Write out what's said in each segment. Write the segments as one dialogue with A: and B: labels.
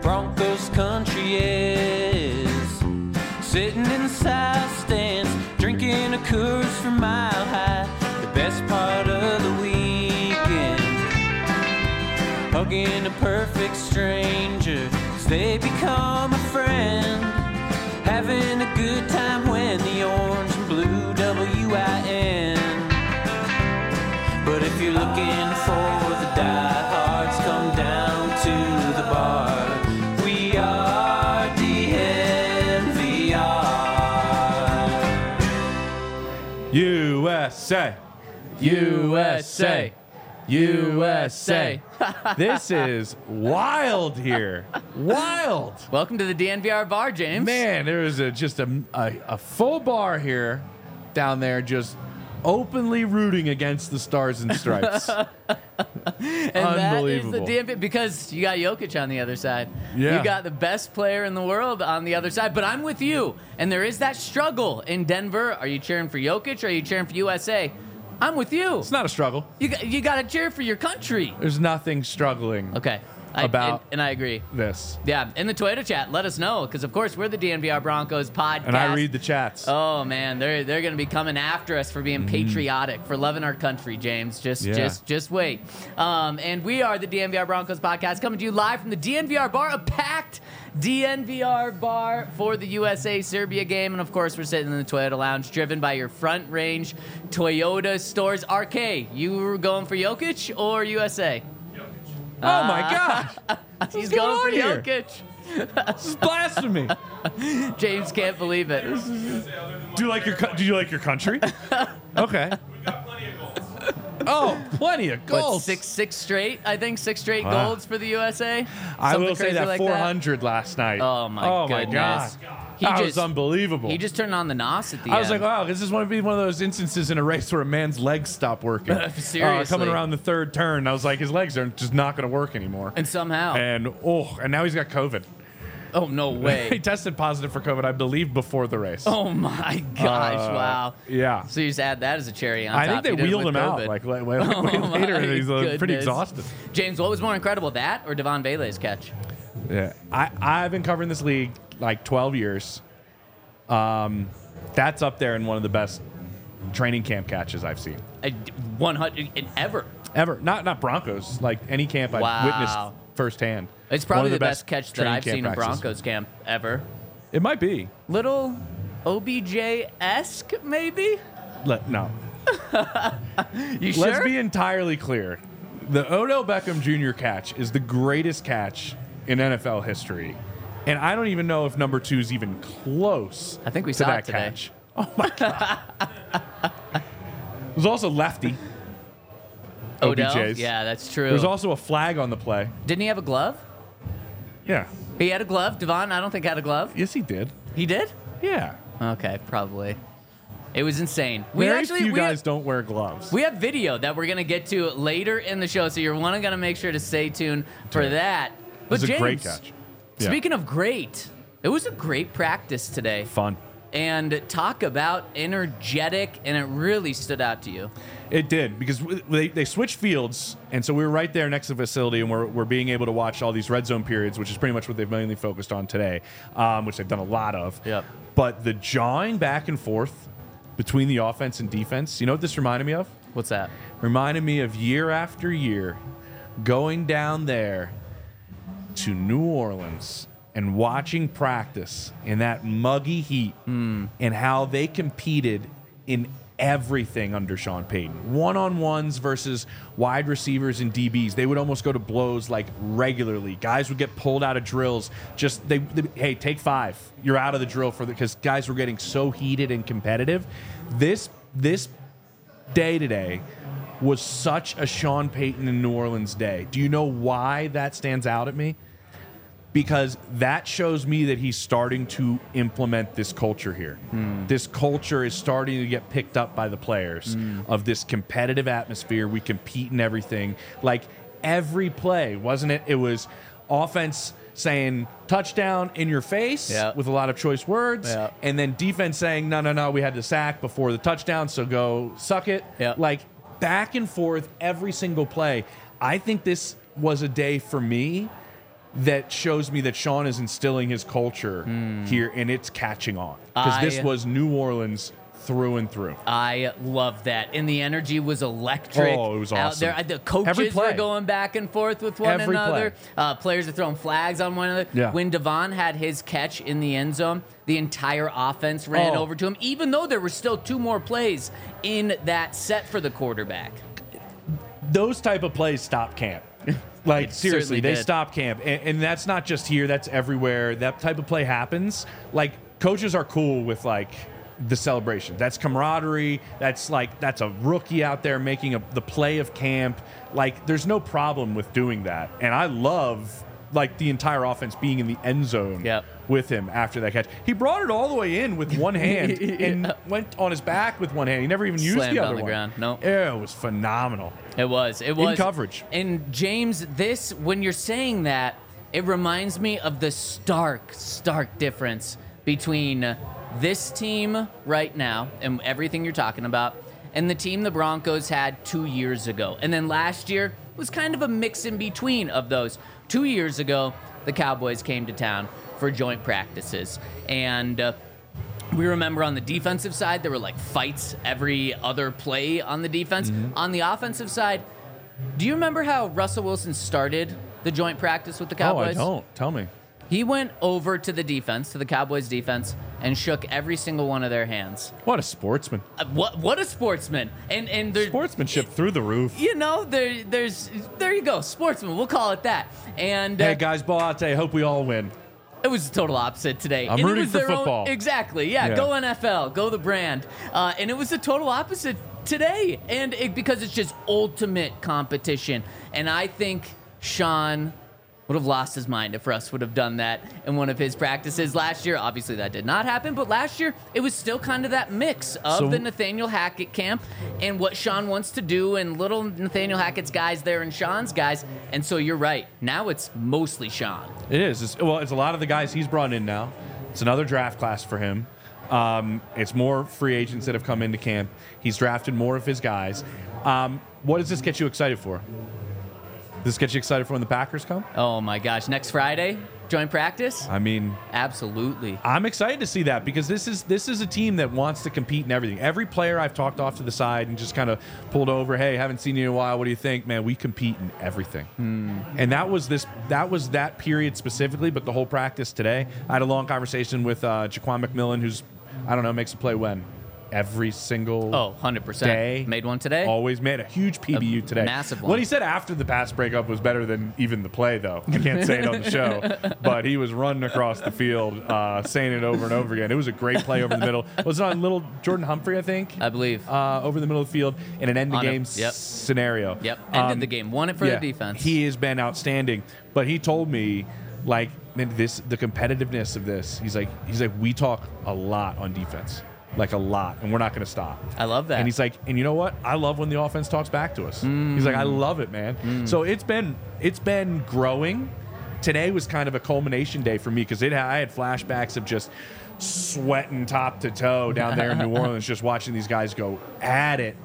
A: Broncos country is. Sitting in the south stands, drinking a Coors from Mile High. The best part of the weekend, hugging a perfect stranger as they become a friend. Having a good time when the orange and blue WIN. But if you're looking for the diehards, come down to the bar. We are DNVR.
B: USA.
C: USA. USA.
B: This is wild here. Wild.
C: Welcome to the DNVR bar, James.
B: Man, there is just a full bar here down there just openly rooting against the Stars and Stripes.
C: And that is the
B: Unbelievable.
C: DNVR because you got Jokic on the other side.
B: Yeah.
C: You got the best player in the world on the other side. But I'm with you. And there is that struggle in Denver. Are you cheering for Jokic or are you cheering for USA? I'm with you.
B: It's not a struggle.
C: You got to cheer for your country.
B: There's nothing struggling
C: Okay.
B: About-
C: and I agree.
B: this.
C: Yeah, in the Toyota chat, let us know because of course we're the DNVR Broncos podcast.
B: And I read the chats.
C: Oh man, they're going to be coming after us for being patriotic, for loving our country, James. Just wait. And we are the DNVR Broncos podcast coming to you live from the DNVR bar, a packed DNVR bar for the USA Serbia game, and of course we're sitting in the Toyota Lounge, driven by your Front Range Toyota stores. RK, you were going for Jokic or USA?
B: Oh my gosh.
C: He's
B: going
C: going for
B: on here?
C: Jokic.
B: This is blasphemy.
C: James can't believe it.
B: Do you like your country? Okay. Oh, plenty of
C: What,
B: goals.
C: six straight? I think 6 straight
B: Wow.
C: golds for the USA.
B: I
C: Something
B: will say
C: crazy
B: that
C: like
B: 400 last night.
C: Oh my goodness.
B: God.
C: He
B: That
C: just-
B: was unbelievable.
C: He just turned on the NOS at the
B: I
C: end.
B: was like, wow, this is one of those instances in a race where a man's legs stop working.
C: Seriously.
B: Coming around the third turn, I was like, his legs are just not going to work anymore.
C: And somehow.
B: And now he's got COVID.
C: Oh, no
B: He
C: way.
B: tested positive for COVID, I believe, before the race.
C: Oh my gosh! Wow.
B: Yeah.
C: So you just add that as a cherry on
B: I
C: top.
B: think they
C: He did it
B: wheeled
C: with
B: him out
C: COVID.
B: like way
C: Oh my
B: later, and he's pretty
C: goodness.
B: exhausted.
C: James, what was more incredible, that or Devon Vele's catch?
B: Yeah, I've been covering this league like 12 years. That's up there in one of the best training camp catches I've seen
C: 100 ever.
B: ever. Not Broncos, like any camp I've
C: Wow.
B: witnessed firsthand.
C: It's
B: One
C: probably
B: of
C: the best catch that
B: training
C: I've
B: camp
C: seen in
B: practices.
C: Broncos camp ever.
B: It might be.
C: Little OBJ-esque, maybe?
B: No.
C: You sure?
B: Let's be entirely clear. The Odell Beckham Jr. catch is the greatest catch in NFL history. And I don't even know if number 2 is even close
C: I think we
B: to
C: saw
B: that
C: it today.
B: catch. Oh, my God. There was also lefty.
C: Odell?
B: OBJ's.
C: Yeah, that's true.
B: There was also a flag on the play.
C: Didn't he have a glove?
B: Yeah.
C: He had a glove. Devon, I don't think, had a glove.
B: Yes, he did.
C: He did?
B: Yeah.
C: Okay, probably. It was insane.
B: Very few guys don't wear gloves.
C: We have video that we're going to get to later in the show, so you're going to make sure to stay tuned for that.
B: It
C: But
B: was a
C: James,
B: great catch. Yeah.
C: Speaking of great, it was a great practice today.
B: Fun.
C: And talk about energetic, and it really stood out to you.
B: It did, because they switched fields, and so we were right there next to the facility, and we're being able to watch all these red zone periods, which is pretty much what they've mainly focused on today, which they've done a lot of.
C: Yep.
B: But the jawing back and forth between the offense and defense, you know what this reminded me of?
C: What's that?
B: Reminded me of year after year going down there to New Orleans and watching practice in that muggy heat and how they competed in everything under Sean Payton. One-on-ones versus wide receivers and DBs. They would almost go to blows like regularly. Guys would get pulled out of drills. Just hey, take 5. You're out of the drill because guys were getting so heated and competitive. This day today was such a Sean Payton in New Orleans day. Do you know why that stands out at me? Because that shows me that he's starting to implement this culture here. This culture is starting to get picked up by the players of this competitive atmosphere. We compete in everything. Like every play, wasn't it? It was offense saying touchdown in your face with a lot of choice words.
C: Yeah.
B: And then defense saying, no, we had the sack before the touchdown, so go suck it.
C: Yeah.
B: Like back and forth every single play. I think this was a day for me that shows me that Sean is instilling his culture here, and it's catching on. Because this was New Orleans through and through.
C: I love that. And the energy was electric.
B: Oh, it was awesome.
C: Out there. The coaches were going back and forth with one another. Players are throwing flags on one another.
B: Yeah.
C: When Devon had his catch in the end zone, the entire offense ran over to him, even though there were still 2 more plays in that set for the quarterback.
B: Those type of plays stop camp. Like, seriously, they stop camp. And that's not just here. That's everywhere. That type of play happens. Like, coaches are cool with, like, the celebration. That's camaraderie. That's a rookie out there making the play of camp. Like, there's no problem with doing that. And I love, like, the entire offense being in the end zone with him after that catch. He brought it all the way in with one hand and went on his back with one hand. He never even used the other one.
C: Ground. No.
B: Yeah, it was phenomenal.
C: It was.
B: In coverage.
C: And James, when you're saying that, it reminds me of the stark difference between this team right now and everything you're talking about and the team the Broncos had 2 years ago. And then last year was kind of a mix in between of those. 2 years ago, the Cowboys came to town for joint practices. And we remember on the defensive side, there were like fights every other play on the defense. On the offensive side, do you remember how Russell Wilson started the joint practice with the Cowboys?
B: Oh, I don't. Tell me.
C: He went over to the defense, to the Cowboys defense, and shook every single one of their hands.
B: What a sportsman.
C: What a sportsman. And there's
B: sportsmanship through the roof.
C: You know, there you go, sportsman. We'll call it that. And
B: hey guys, ball out today. Hope we all win.
C: It was the total opposite today.
B: I'm rooting for football.
C: Exactly. Yeah. Go NFL. Go the brand. And it was the total opposite today. And because it's just ultimate competition. And I think Sean would have lost his mind if Russ would have done that in one of his practices last year. Obviously, that did not happen, but last year, it was still kind of that mix of the Nathaniel Hackett camp and what Sean wants to do and little Nathaniel Hackett's guys there and Sean's guys. And so you're right. Now it's mostly Sean.
B: It is. It's a lot of the guys he's brought in now. It's another draft class for him. It's more free agents that have come into camp. He's drafted more of his guys. What does this get you excited for? Does this get you excited for when the Packers come?
C: Oh, my gosh. Next Friday, joint practice?
B: I mean...
C: Absolutely.
B: I'm excited to see that because this is a team that wants to compete in everything. Every player I've talked off to the side and just kind of pulled over, hey, haven't seen you in a while. What do you think? Man, we compete in everything. And that was that period specifically, but the whole practice today. I had a long conversation with Jaquan McMillan, who's, I don't know, makes a play when? Every single
C: 100%.
B: day.
C: Made one today.
B: Always made a huge PBU today.
C: Massive one.
B: What he said after the pass breakup was better than even the play, though. I can't say it on the show, but he was running across the field, saying it over and over again. It was a great play over the middle. Was it on little Jordan Humphrey, I think?
C: I believe.
B: Over the middle of the field in an end-of-game scenario.
C: Yep, ended the game. Won it for the defense.
B: He has been outstanding, but he told me, like, man, the competitiveness of this, he's like, we talk a lot on defense. Like a lot, and we're not going to stop.
C: I love that.
B: And he's like, and you know what? I love when the offense talks back to us. He's like, I love it, man. So it's been growing. Today was kind of a culmination day for me because I had flashbacks of just sweating top to toe down there in New Orleans, just watching these guys go at it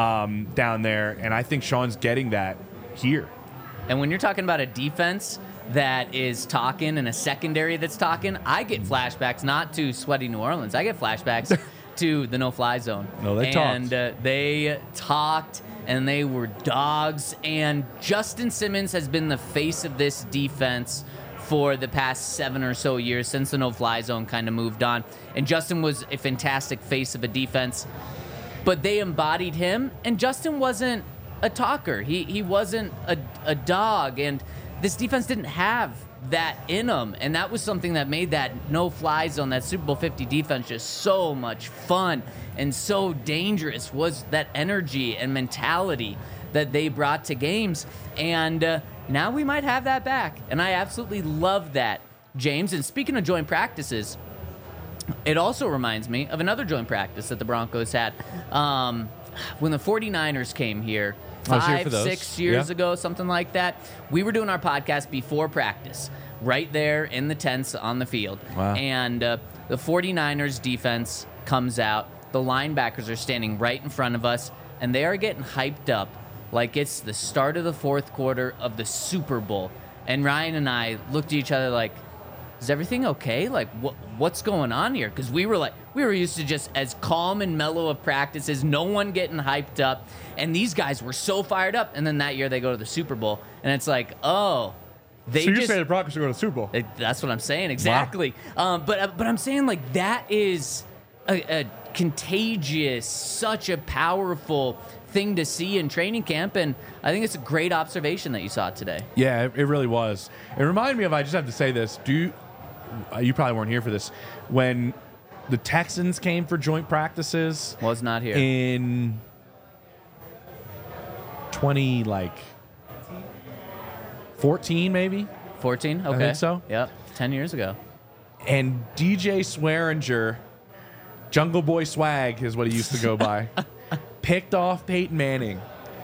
B: down there. And I think Sean's getting that here.
C: And when you're talking about a defense that is talking and a secondary that's talking, I get flashbacks not to sweaty New Orleans. I get flashbacks to the no-fly zone.
B: No, they talked.
C: And they talked, and they were dogs. And Justin Simmons has been the face of this defense for the past 7 or so years since the no-fly zone kind of moved on. And Justin was a fantastic face of a defense. But they embodied him, and Justin wasn't a talker. He wasn't a dog, and this defense didn't have that in them, and that was something that made that no-fly zone, that Super Bowl 50 defense, just so much fun and so dangerous. Was that energy and mentality that they brought to games, and now we might have that back, and I absolutely love that, James. And speaking of joint practices, it also reminds me of another joint practice that the Broncos had when the 49ers came here 5-6 years ago, something like that. We were doing our podcast before practice, right there in the tents on the field.
B: Wow.
C: And the 49ers defense comes out. The linebackers are standing right in front of us, and they are getting hyped up like it's the start of the fourth quarter of the Super Bowl. And Ryan and I looked at each other like, is everything okay? Like, what's going on here? Because we were used to just as calm and mellow of practices, no one getting hyped up. And these guys were so fired up. And then that year they go to the Super Bowl. And it's like, oh,
D: so you're saying the Broncos are going to the Super Bowl?
C: That's what I'm saying, exactly.
B: Wow.
C: But I'm saying, like, that is a contagious, such a powerful thing to see in training camp, and I think it's a great observation that you saw today.
B: Yeah, it really was. It reminded me of, I just have to say this, you probably weren't here for this, when the Texans came for joint practices.
C: Was not here.
B: In 14 maybe?
C: 14? Okay.
B: I think so.
C: Yep, 10 years ago.
B: And DJ Swearinger, Jungle Boy Swag is what he used to go by, picked off Peyton Manning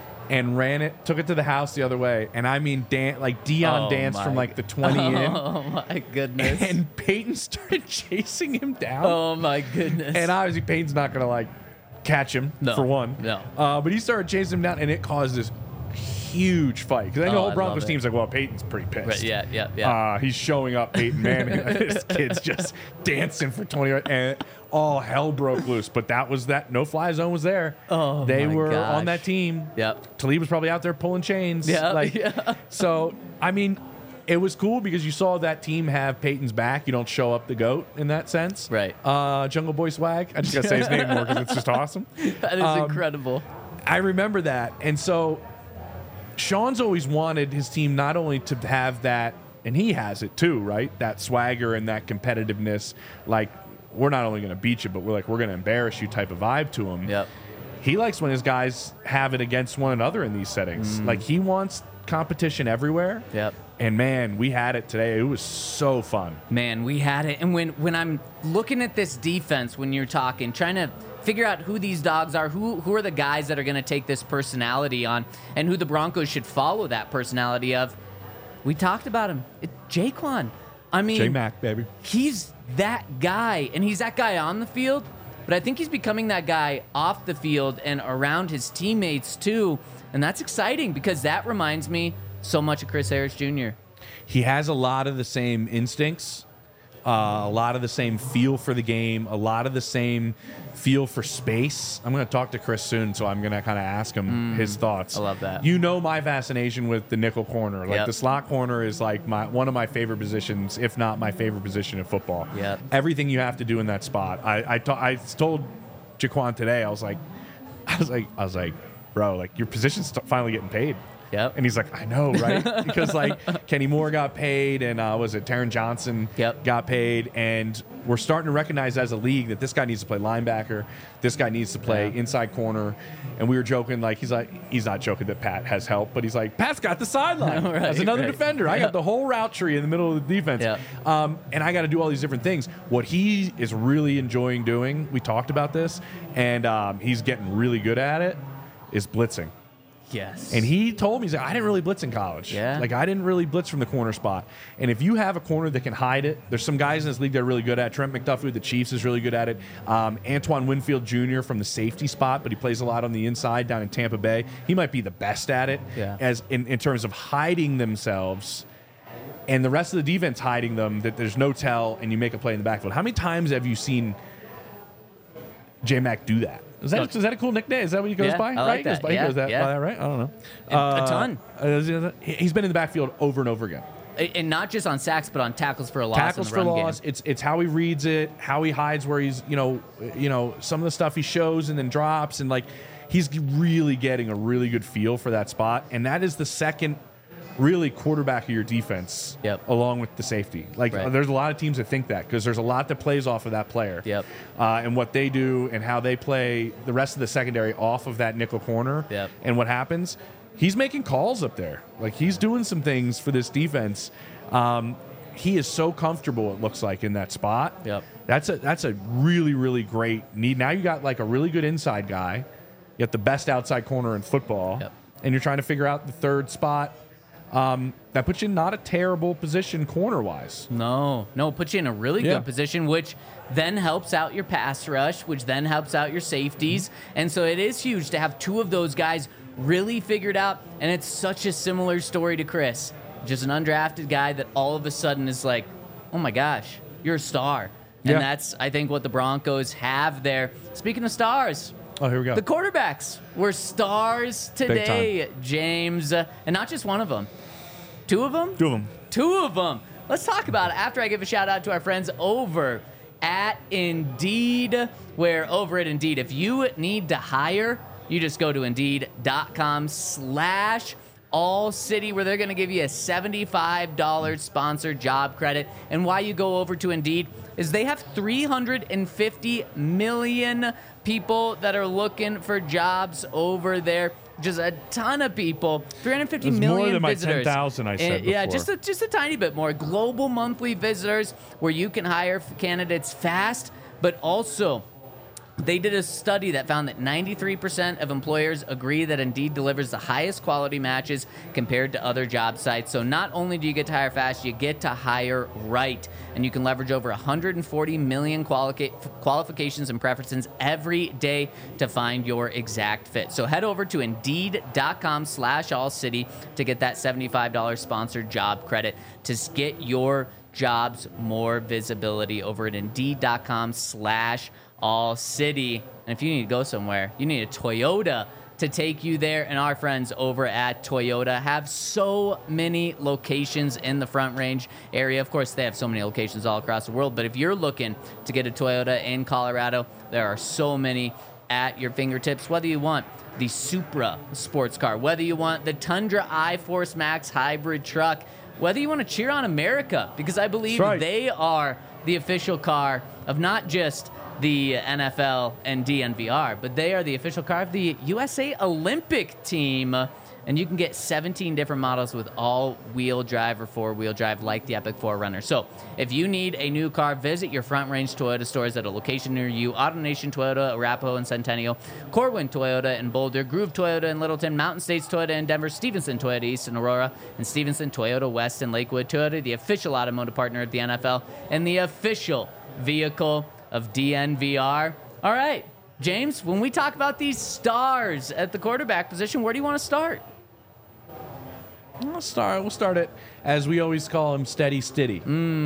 B: and took it to the house the other way. And I mean, Deion danced from like the 20 in.
C: Oh my goodness.
B: And Peyton started chasing him down.
C: Oh my goodness.
B: And obviously Peyton's not going to like catch him, for one.
C: No.
B: But he started chasing him down, and it caused this huge fight. Because I know the whole Broncos team's like, well, Peyton's pretty pissed.
C: Right, yeah.
B: He's showing up Peyton Manning. This kid's just dancing for 20 minutes, and all hell broke loose. But that was that. No-fly zone was there.
C: Oh,
B: they
C: my
B: were
C: gosh.
B: on that team.
C: Yep.
B: Talib was probably out there pulling chains.
C: Yeah.
B: So, I mean, it was cool because you saw that team have Peyton's back. You don't show up the GOAT in that sense.
C: Right.
B: Jungle Boy Swag. I just got to say his name more because it's just awesome.
C: That is incredible.
B: I remember that. And so Sean's always wanted his team not only to have that, and he has it too, right? That swagger and that competitiveness. Like, we're not only going to beat you, but we're going to embarrass you type of vibe to him.
C: Yep.
B: He likes when his guys have it against one another in these settings. Like, he wants competition everywhere.
C: Yep.
B: And, man, we had it today. It was so fun.
C: Man, we had it. And when I'm looking at this defense, when you're talking, trying to figure out who these dogs are, who are the guys that are going to take this personality on, and who the Broncos should follow that personality of, we talked about him. It's Jaquan. I mean,
B: J-Mac, baby.
C: He's that guy, and he's that guy on the field, but I think he's becoming that guy off the field and around his teammates too, and that's exciting because that reminds me so much of Chris Harris Jr.
B: He has a lot of the same instincts, a lot of the same feel for the game, a lot of the same feel for space. I'm going to talk to Chris soon, so I'm going to kind of ask him his thoughts.
C: I love that.
B: You know my fascination with the nickel corner. Like, the slot corner is like one of my favorite positions, if not my favorite position in football.
C: Yep.
B: Everything you have to do in that spot. I told Jaquan today, I was like, bro, like, your position's finally getting paid.
C: Yep.
B: And he's like, I know, right? Because, like, Kenny Moore got paid, and was it Taron Johnson got paid, and we're starting to recognize as a league that this guy needs to play linebacker, this guy needs to play inside corner, and we were joking, like, he's not joking that Pat has help, but he's like, Pat's got the sideline as another defender. I got the whole route tree in the middle of the defense, and I got to do all these different things. What he is really enjoying doing, we talked about this, and he's getting really good at it, is blitzing.
C: Yes.
B: And he told me, he's like, I didn't really blitz in college.
C: Yeah.
B: Like, I didn't really blitz from the corner spot. And if you have a corner that can hide it, there's some guys in this league that are really good at it. Trent McDuffie with the Chiefs is really good at it. Antoine Winfield Jr. from the safety spot, but he plays a lot on the inside down in Tampa Bay. He might be the best at it as in terms of hiding themselves. And the rest of the defense hiding them, that there's no tell, and you make a play in the backfield. How many times have you seen J-Mac do that? Is that a cool nickname? Is that what he goes by?
C: I like
B: right?
C: that.
B: He goes by that, right? I don't know.
C: A ton.
B: He's been in the backfield over and over again.
C: And not just on sacks, but on tackles for a loss.
B: Tackles
C: in the
B: for
C: run
B: loss.
C: Game.
B: It's how he reads it, how he hides where he's, you know, some of the stuff he shows and then drops, and like he's really getting a really good feel for that spot. And that is the second really quarterback of your defense, along with the safety. Like, there's a lot of teams that think that because there's a lot that plays off of that player. And what they do and how they play the rest of the secondary off of that nickel corner. And what happens, he's making calls up there. Like, he's doing some things for this defense. He is so comfortable, it looks like, in that spot. That's a really, really great need. Now you got like a really good inside guy. You got the best outside corner in football. And you're trying to figure out the third spot. That puts you in not a terrible position corner-wise.
C: No, puts you in a really good position, which then helps out your pass rush, which then helps out your safeties. And so it is huge to have two of those guys really figured out, and it's such a similar story to Chris. just an undrafted guy that all of a sudden is like, oh my gosh, you're a star. And that's, I think, what the Broncos have there. Speaking of stars.
B: Oh, here we go.
C: The quarterbacks were stars today, James. And not just one of them. Two of them? Two of them. Let's talk about it after I give a shout out to our friends over at Indeed, where over at Indeed, if you need to hire, you just go to Indeed.com/AllCity, where they're going to give you a $75 sponsored job credit. And why you go over to Indeed is they have 350 million people that are looking for jobs over there. Just a ton of people. 350 million
B: more than
C: visitors.
B: My 10,000 I said before.
C: Yeah, just a tiny bit more. Global monthly visitors where you can hire candidates fast, but also they did a study that found that 93% of employers agree that Indeed delivers the highest quality matches compared to other job sites. So not only do you get to hire fast, you get to hire right. And you can leverage over 140 million qualifications and preferences every day to find your exact fit. So head over to Indeed.com/AllCity to get that $75 sponsored job credit to get your jobs more visibility over at Indeed.com/AllCity. And if you need to go somewhere, you need a Toyota to take you there. And our friends over at Toyota have so many locations in the Front Range area. Of course, they have so many locations all across the world. But if you're looking to get a Toyota in Colorado, there are so many at your fingertips. Whether you want the Supra sports car, whether you want the Tundra iForce Max hybrid truck, whether you want to cheer on America, because I believe they are the official car of not just the NFL and DNVR, but they are the official car of the USA Olympic team. And you can get 17 different models with all-wheel drive or four-wheel drive like the Epic 4Runner. So if you need a new car, visit your Front Range Toyota stores at a location near you. AutoNation Toyota, Arapahoe and Centennial, Corwin Toyota in Boulder, Groove Toyota in Littleton, Mountain States Toyota in Denver, Stevenson Toyota East in Aurora, and Stevenson Toyota West in Lakewood. Toyota, the official automotive partner of the NFL and the official vehicle of DNVR. All right, James, when we talk about these stars at the quarterback position, where do you want to start?
B: We'll start it, as we always call him, Steady Stiddy.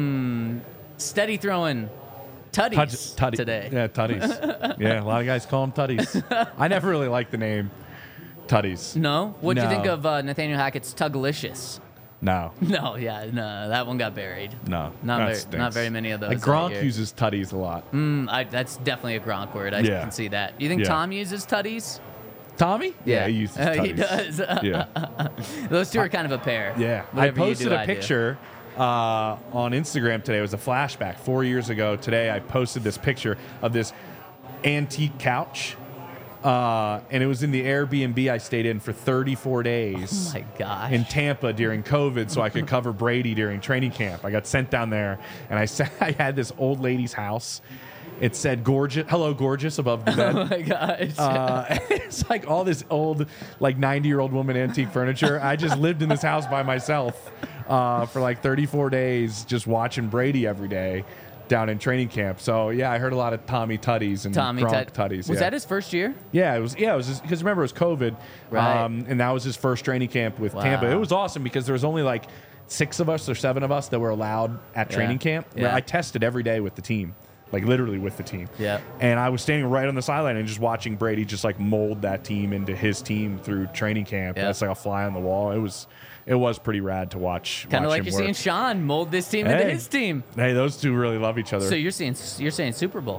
C: Steady throwing tutties today.
B: Yeah, tutties. Yeah, a lot of guys call him tutties. I never really liked the name tutties.
C: No? What'd you think of Nathaniel Hackett's Tugalicious?
B: No.
C: No, that one got buried.
B: No.
C: Not very many of those.
B: Like Gronk uses tutties a lot.
C: That's definitely a Gronk word. I can see that. You think Tom uses tutties?
B: Tommy? Yeah, he uses tutties.
C: He does.
B: Yeah.
C: Those two are kind of a pair.
B: Yeah.
C: Whatever
B: I posted a picture on Instagram today. It was a flashback. 4 years ago today, I posted this picture of this antique couch. And it was in the Airbnb I stayed in for 34 days.
C: Oh, my gosh.
B: In Tampa during COVID so I could cover Brady during training camp. I got sent down there, and I had this old lady's house. It said "gorgeous," "hello, gorgeous" above the bed.
C: Oh my gosh!
B: It's like all this old, like 90-year-old woman antique furniture. I just lived in this house by myself for like 34 days, just watching Brady every day down in training camp. So yeah, I heard a lot of Tommy Tutties and Gronk Tutties.
C: Was that his first year?
B: Yeah, it was because remember it was COVID,
C: right?
B: And that was his first training camp with Tampa. It was awesome because there was only like 6 of us or 7 of us that were allowed at training camp.
C: Yeah.
B: I tested every day with the team. Like literally with the team.
C: Yeah.
B: And I was standing right on the sideline and just watching Brady just like mold that team into his team through training camp.
C: Yeah.
B: That's like a fly on the wall. It was pretty rad to watch.
C: Kind of like you're seeing Sean mold this team into his team.
B: Hey, those two really love each other.
C: So you're saying Super Bowl.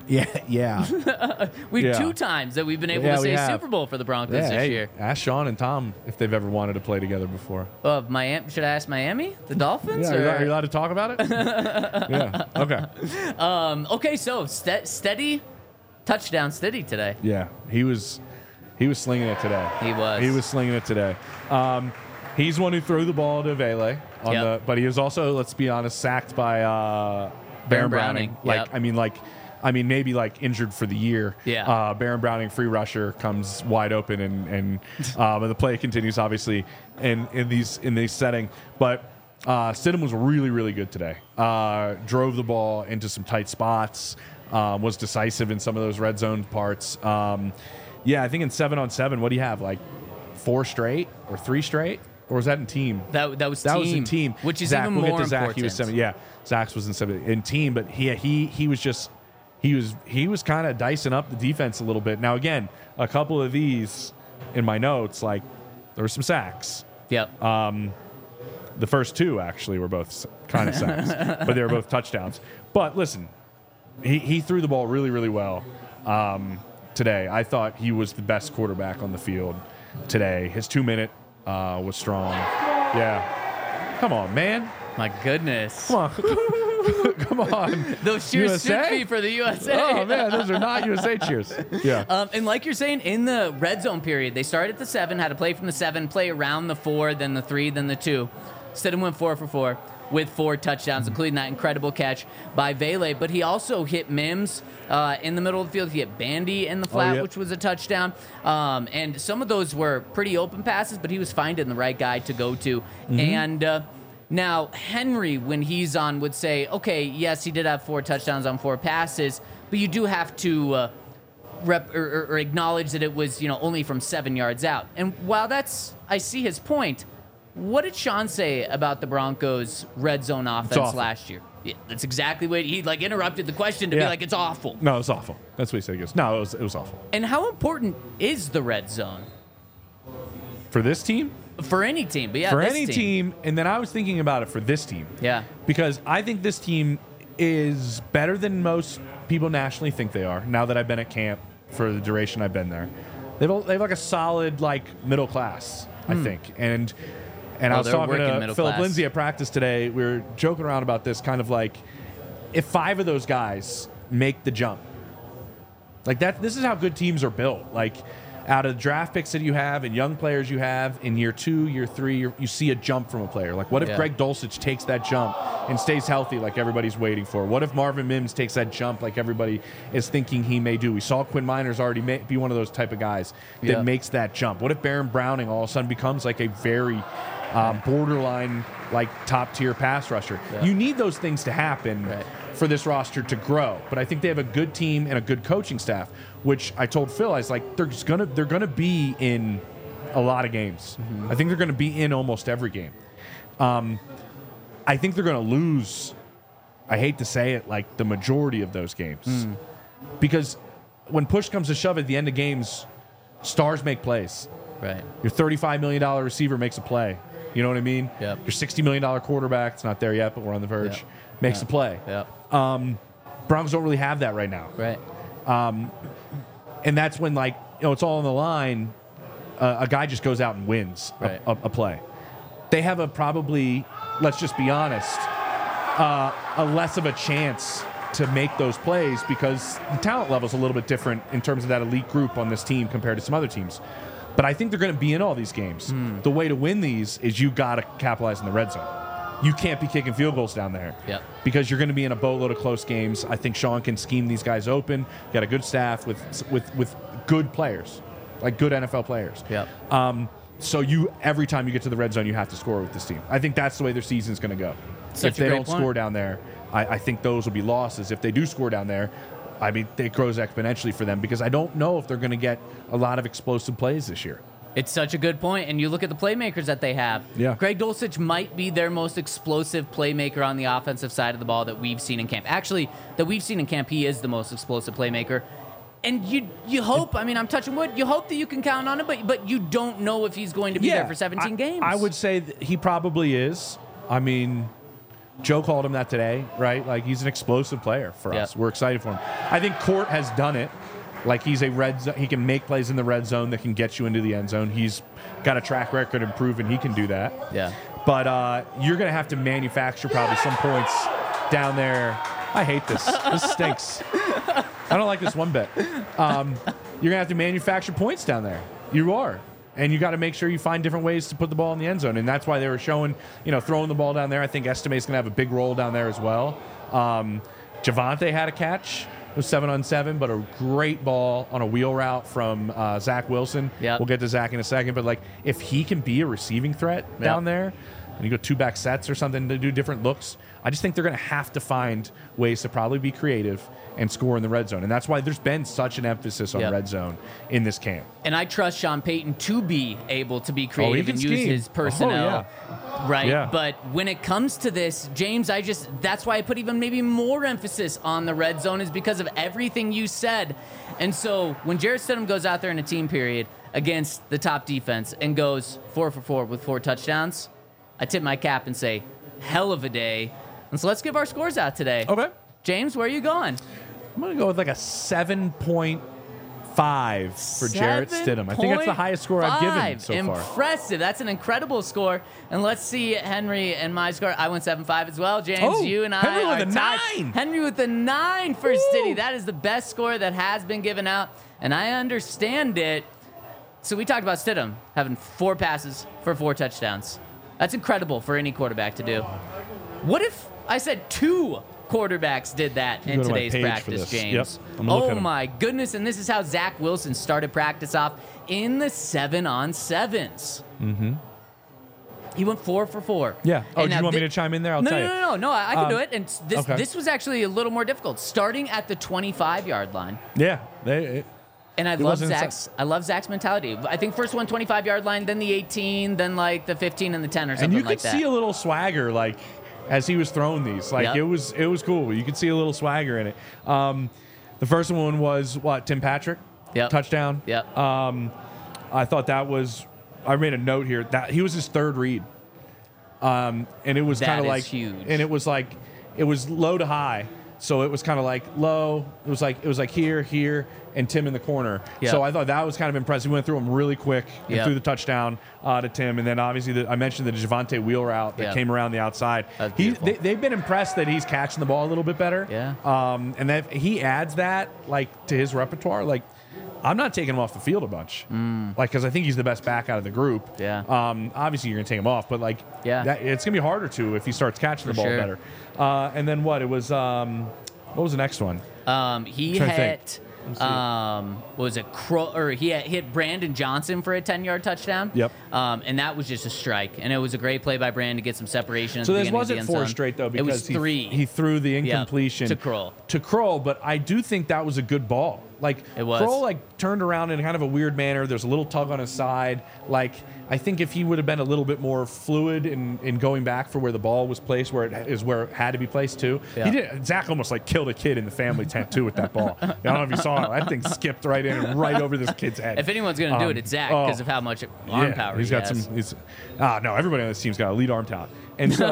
B: Yeah.
C: We've 2 times that we've been able to say Super Bowl for the Broncos this year.
B: Ask Sean and Tom if they've ever wanted to play together before.
C: Miami? Should I ask Miami? The Dolphins?
B: Are you allowed to talk about it? Yeah. Okay.
C: Okay, so steady, touchdown steady today.
B: Yeah. He was slinging it today.
C: He was
B: slinging it today. He's one who threw the ball to Vele but he was also, let's be honest, sacked by Baron Browning. Maybe like injured for the year.
C: Yeah.
B: Baron Browning, free rusher, comes wide open, and the play continues obviously in these setting. But Stidham was really, really good today. Drove the ball into some tight spots. Was decisive in some of those red zone parts. I think in 7-on-7, what do you have? Like 4 straight or 3 straight? Or was that in team?
C: That was team.
B: That was in team.
C: Which is
B: Zach,
C: even
B: we'll
C: more
B: get to Zach.
C: important.
B: He was 7. Yeah, Zach's was in team, but he was just he was kind of dicing up the defense a little bit. Now again, a couple of these in my notes, like there were some sacks.
C: Yep.
B: The first 2 actually were both kind of sacks, but they were both touchdowns. But listen, he threw the ball really, really well today. I thought he was the best quarterback on the field today. His 2-minute was strong. Yeah. Come on, man.
C: My goodness.
B: Come on. Come on.
C: Those cheers
B: USA?
C: should be for the USA.
B: Oh, man, those are not USA cheers. Yeah.
C: And like you're saying, in the red zone period, they started at the 7, had to play from the 7, play around the 4, then the 3, then the 2. Stidham went 4 for 4 with 4 touchdowns, including that incredible catch by Vele. But he also hit Mims in the middle of the field. He hit Bandy in the flat, which was a touchdown. And some of those were pretty open passes, but he was finding the right guy to go to. And now Henry, when he's on, would say, okay, yes, he did have 4 touchdowns on 4 passes, but you do have to or acknowledge that it was only from 7 yards out. And while I see his point. What did Sean say about the Broncos' red zone offense last year? Yeah, that's exactly what he interrupted the question to be like, it's awful.
B: No, it's awful. That's what he said. He goes, no, it was awful.
C: And how important is the red zone
B: for this team?
C: For any team, but
B: for any team. And then I was thinking about it for this team.
C: Yeah,
B: because I think this team is better than most people nationally think they are. Now that I've been at camp for the duration I've been there, they have like a solid middle class, I think, and. And I was talking to Philip Lindsay at practice today. We were joking around about this, kind of like, if 5 of those guys make the jump, like that, this is how good teams are built. Like, out of draft picks that you have and young players you have, in year 2, year 3, you see a jump from a player. Like, what if Greg Dulcich takes that jump and stays healthy like everybody's waiting for? What if Marvin Mims takes that jump like everybody is thinking he may do? We saw Quinn Miners already be one of those type of guys that makes that jump. What if Baron Browning all of a sudden becomes like a very borderline, top tier pass rusher? You need those things to happen for this roster to grow. But I think they have a good team and a good coaching staff, which I told Phil, I was like, they're gonna be in a lot of games. I think they're gonna be in almost every game. I think they're gonna lose, I hate to say it, the majority of those games. Because when push comes to shove at the end of games, stars make plays.
C: Right.
B: Your $35 million receiver makes a play. You know what I mean?
C: Yep.
B: Your $60 million quarterback, it's not there yet, but we're on the verge, makes a play.
C: Yep.
B: Broncos don't really have that right now.
C: Right.
B: And that's when, it's all on the line. A guy just goes out and wins a play. They have a probably, let's just be honest, a less of a chance to make those plays because the talent level is a little bit different in terms of that elite group on this team compared to some other teams. But I think they're going to be in all these games. The way to win these is you got to capitalize in the red zone. You can't be kicking field goals down there because you're going to be in a boatload of close games. I think Sean can scheme these guys open. You got a good staff with good players, like good NFL players. So every time you get to the red zone, you have to score with this team. I think that's the way their season's going to go. If they don't score down there, I think those will be losses. If they do score down there, I mean, it grows exponentially for them because I don't know if they're going to get a lot of explosive plays this year.
C: It's such a good point, and you look at the playmakers that they have. Greg Dulcich might be their most explosive playmaker on the offensive side of the ball that we've seen in camp. Actually, that we've seen in camp, he is the most explosive playmaker. And you hope, I mean, I'm touching wood, you hope that you can count on him, but you don't know if he's going to be there for 17 games.
B: I would say that he probably is. I mean, Joe called him that today, right? He's an explosive player for us. We're excited for him. I think Court has done it. He's he can make plays in the red zone that can get you into the end zone. He's got a track record of proving he can do that.
C: Yeah.
B: But you're going to have to manufacture probably some points down there. I hate this. This stinks. I don't like this one bit. You're going to have to manufacture points down there. You are. And you got to make sure you find different ways to put the ball in the end zone. And that's why they were showing, throwing the ball down there. I think Estime's going to have a big role down there as well. Javonte had a catch. It was 7-on-7, but a great ball on a wheel route from Zach Wilson. We'll get to Zach in a second. But, if he can be a receiving threat down there, and you go 2-back sets or something to do different looks. I just think they're going to have to find ways to probably be creative and score in the red zone. And that's why there's been such an emphasis on red zone in this camp.
C: And I trust Sean Payton to be able to be creative and use his personnel. Right?
B: Yeah.
C: But when it comes to this, James, that's why I put even maybe more emphasis on the red zone, is because of everything you said. And so when Jarrett Stidham goes out there in a team period against the top defense and goes 4 for 4 with 4 touchdowns, I tip my cap and say, hell of a day. And so let's give our scores out today.
B: Okay.
C: James, where are you going?
B: I'm going to go with like a 7.5 for Jarrett Stidham. I think that's the highest score I've given so far.
C: Impressive. That's an incredible score. And let's see Henry and my score. I went 7.5 as well. James, you and
B: Henry
C: I
B: with
C: are
B: a
C: tied.
B: 9.
C: Henry with a 9 for Stiddy. That is the best score that has been given out, and I understand it. So we talked about Stidham having 4 passes for 4 touchdowns. That's incredible for any quarterback to do. What if I said 2 quarterbacks did that in today's practice, James?
B: Yep.
C: Oh my goodness. And this is how Zach Wilson started practice off in the 7-on-7s.
B: Mm-hmm.
C: He went 4 for 4.
B: Yeah. Oh, do you want me to chime in there? I'll tell you.
C: No. I can do it. And this was actually a little more difficult, starting at the 25-yard line.
B: Yeah.
C: And I love Zach's mentality. I think first one 25-yard line, then the 18, then like the 15 and the 10 or something like that.
B: And you could see a little swagger, like, as he was throwing these. Like, it was cool. You could see a little swagger in it. The first one was, Tim Patrick?
C: Yep.
B: Touchdown?
C: Yep.
B: I thought that was, I made a note here, that he was his third read. And it was kind of like,
C: huge.
B: And it was like, it was low to high. So it was kind of like low. It was like here, and Tim in the corner.
C: Yep.
B: So I thought that was kind of impressive. He went through him really quick and threw the touchdown to Tim. And then obviously I mentioned the Javonte Wheel route that came around the outside. They've been impressed that he's catching the ball a little bit better.
C: Yeah.
B: And that he adds that like to his repertoire. Like, I'm not taking him off the field a bunch, because I think he's the best back out of the group.
C: Yeah.
B: Obviously you're gonna take him off, but it's gonna be harder to if he starts catching the ball better. And then what was the next one?
C: He hit. He hit Brandon Johnson for a 10-yard touchdown.
B: Yep.
C: And that was just a strike, and it was a great play by Brandon to get some separation.
B: So this wasn't 4 straight though, because
C: it was 3.
B: He threw the incompletion
C: to Kroll.
B: But I do think that was a good ball. Like,
C: it was.
B: Kroll turned around in kind of a weird manner. There's a little tug on his side. Like, I think if he would have been a little bit more fluid in going back for where the ball was placed, where it had to be placed too.
C: Yeah.
B: Zach almost killed a kid in the family tent too with that ball. I don't know if you saw it. That thing skipped right in and right over this kid's head.
C: If anyone's going to do it, it's Zach, because of how much arm power
B: he's got
C: has.
B: No, everybody on this team's got elite arm talent. And so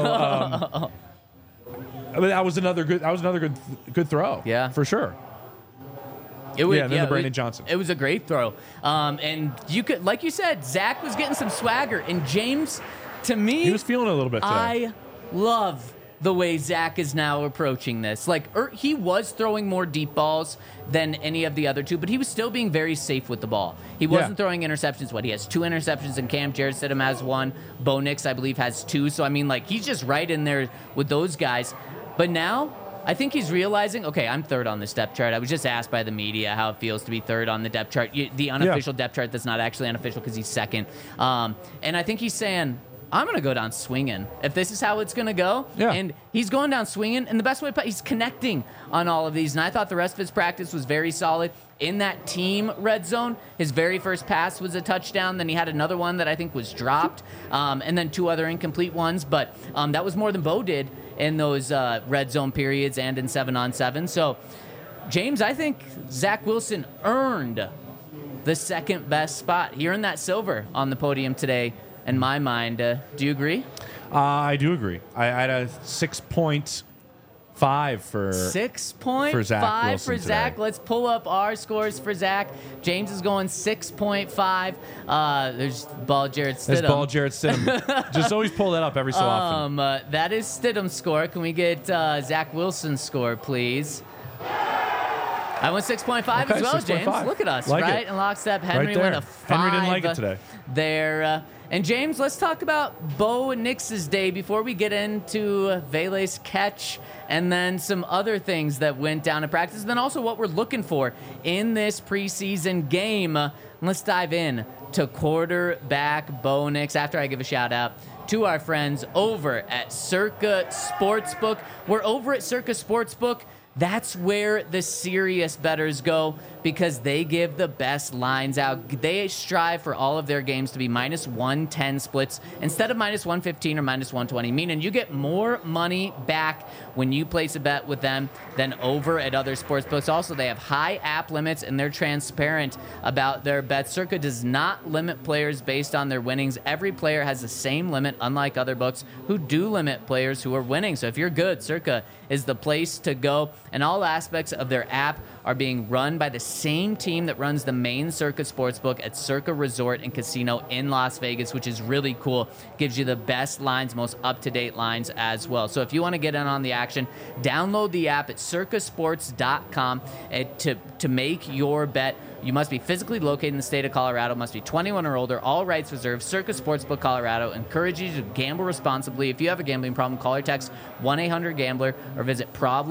B: that was another good throw.
C: Yeah.
B: For sure. The Brandon Johnson.
C: It was a great throw. And you could, like you said, Zach was getting some swagger. And James, to me,
B: he was feeling a little bit today.
C: I love the way Zach is now approaching this. He was throwing more deep balls than any of the other two, but he was still being very safe with the ball. He wasn't throwing interceptions. He has 2 interceptions in camp. Jarrett Stidham has 1. Bo Nix, I believe, has 2. So, he's just right in there with those guys. But now, I think he's realizing, okay, I'm third on this depth chart. I was just asked by the media how it feels to be third on the depth chart, the unofficial depth chart that's not actually unofficial because he's second. And I think he's saying, I'm going to go down swinging if this is how it's going to go.
B: Yeah.
C: And he's going down swinging, and the best way to play, he's connecting on all of these. And I thought the rest of his practice was very solid. In that team red zone, his very first pass was a touchdown. Then he had another one that I think was dropped, and then 2 other incomplete ones. But that was more than Bo did in those red zone periods and in 7-on-7. So, James, I think Zach Wilson earned the second best spot. He earned that silver on the podium today, in my mind. Do you agree?
B: I do agree. I had a 6.5 for
C: 6.5
B: for Zach Wilson
C: for Zach.
B: today.
C: Let's pull up our scores for Zach. James is going 6.5. There's ball Jarrett Stidham.
B: There's ball Jarrett Stidham. Just always pull that up every so often.
C: That is Stidham's score. Can we get Zach Wilson's score, please? I went 6.5 as well,
B: 6.5.
C: James. Look at us,
B: like
C: right?
B: It.
C: In lockstep. Henry
B: right
C: went a 5.
B: Henry didn't like it today.
C: There. And James, let's talk about Bo Nix's day before we get into Vele's catch and then some other things that went down in practice, and then also what we're looking for in this preseason game. Let's dive in to quarterback Bo Nix after I give a shout out to our friends over at Circa Sportsbook. We're over at Circa Sportsbook. That's where the serious bettors go because they give the best lines out. They strive for all of their games to be minus 110 splits instead of minus 115 or minus 120, meaning you get more money back when you place a bet with them than over at other sportsbooks. Also, they have high app limits and they're transparent about their bets. Circa does not limit players based on their winnings. Every player has the same limit, unlike other books who do limit players who are winning. So if you're good, Circa is the place to go. And all aspects of their app are being run by the same team that runs the main Circa Sportsbook at Circa Resort and Casino in Las Vegas, which is really cool. Gives you the best lines, most up-to-date lines as well. So if you want to get in on the action, download the app at circasports.com to make your bet. You must be physically located in the state of Colorado, must be 21 or older, all rights reserved. Circa Sportsbook Colorado encourages you to gamble responsibly. If you have a gambling problem, call or text 1-800-GAMBLER or visit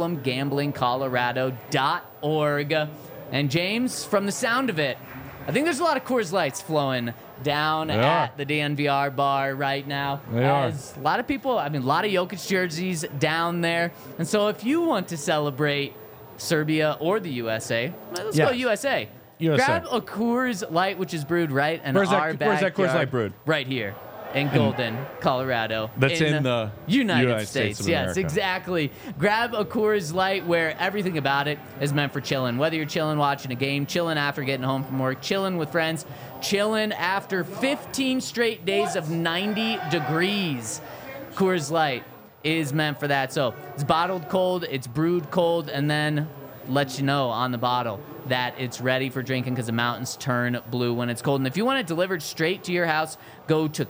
C: problemgamblingcolorado.org. And James, from the sound of it, I think there's a lot of Coors Lights flowing down at the DNVR bar right now. A lot of people, a lot of Jokic jerseys down there. And so if you want to celebrate Serbia or the USA, let's go USA. Grab a Coors Light, which is brewed right in our backyard.
B: Where's that Coors Light brewed?
C: Right here in Golden, Colorado.
B: That's in the
C: United States.
B: of America.
C: Yes, exactly. Grab a Coors Light where everything about it is meant for chilling. Whether you're chilling watching a game, chilling after getting home from work, chilling with friends, chilling after 15 straight days of 90 degrees. Coors Light is meant for that. So it's bottled cold, it's brewed cold, and then lets you know on the bottle that it's ready for drinking because the mountains turn blue when it's cold. And if you want it delivered straight to your house, go to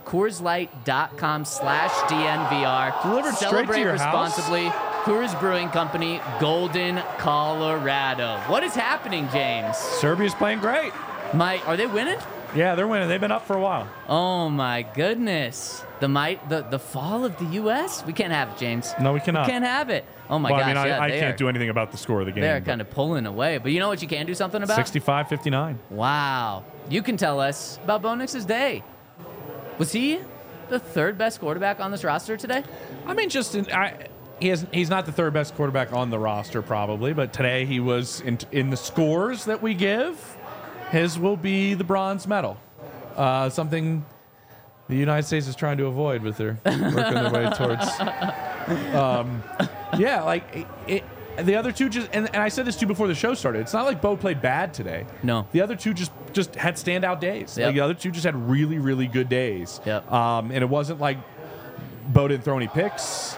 C: CoorsLight.com/DNVR.
B: Delivered straight to your
C: responsibly. Coors Brewing Company, Golden, Colorado. What is happening, James?
B: Serbia's playing great.
C: Are they winning?
D: Yeah, they're winning. They've been up for a while.
C: Oh my goodness. The fall of the U.S.? We can't have it, James.
D: No, we cannot.
C: We can't have it. Oh my gosh.
D: I can't do anything about the score of the game.
C: They're kind of pulling away. But you know what you can do something about?
D: 65-59.
C: Wow. You can tell us about Bo Nix's day. Was he the third best quarterback on this roster today?
B: He's not the third best quarterback on the roster probably, but today he was in the scores that we give. His will be the bronze medal. Something the United States is trying to avoid with their working their way towards. The other two just and I said this too before the show started. It's not like Bo played bad today.
C: No.
B: The other two just had standout days.
C: Yep.
B: Like the other two just had really, really good days.
C: Yep.
B: And it wasn't like Bo didn't throw any picks.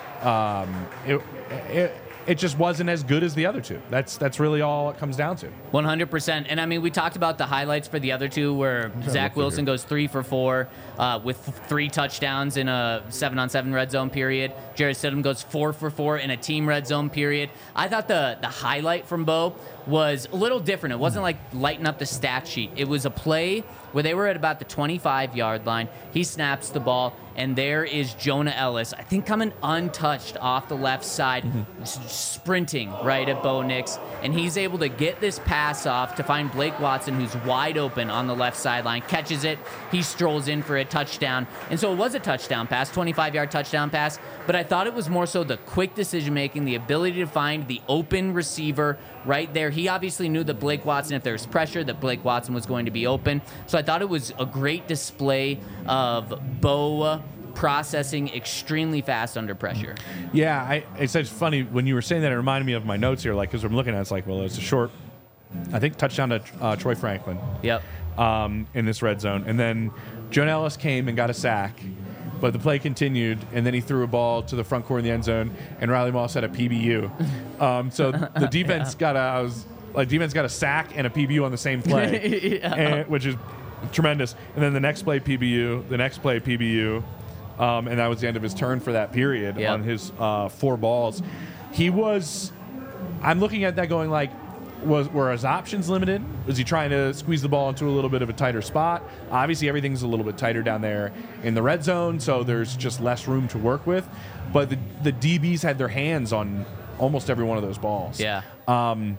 B: It just wasn't as good as the other two. That's really all it comes down to.
C: 100%. And we talked about the highlights for the other two where Zach Wilson goes 3 for 4 with 3 touchdowns in a 7-on-7 red zone period. Jarrett Stidham goes 4 for 4 in a team red zone period. I thought the highlight from Bo was a little different. It wasn't like lighting up the stat sheet. It was a play where they were at about the 25-yard line. He snaps the ball, and there is Jonah Ellis, I think coming untouched off the left side, sprinting right at Bo Nix, and he's able to get this pass off to find Blake Watson, who's wide open on the left sideline, catches it, he strolls in for a touchdown, and so it was a touchdown pass, 25-yard touchdown pass, but I thought it was more so the quick decision-making, the ability to find the open receiver right there. He obviously knew that Blake Watson, if there was pressure, that Blake Watson was going to be open, so I thought it was a great display of Bo processing extremely fast under pressure.
B: Yeah, it's funny when you were saying that. It reminded me of my notes here, like because I'm looking at it, it's like, well, it's a short, I think touchdown to Troy Franklin.
C: Yep.
B: In this red zone, and then Jonah Ellis came and got a sack, but the play continued, and then he threw a ball to the front corner of the end zone, and Riley Moss had a PBU. So the defense got a sack and a PBU on the same play, which is tremendous. And then the next play PBU, and that was the end of his turn for that period on his 4 balls. I'm looking at that going like, were his options limited? Was he trying to squeeze the ball into a little bit of a tighter spot? Obviously, everything's a little bit tighter down there in the red zone, so there's just less room to work with. But the DBs had their hands on almost every one of those balls.
C: Yeah.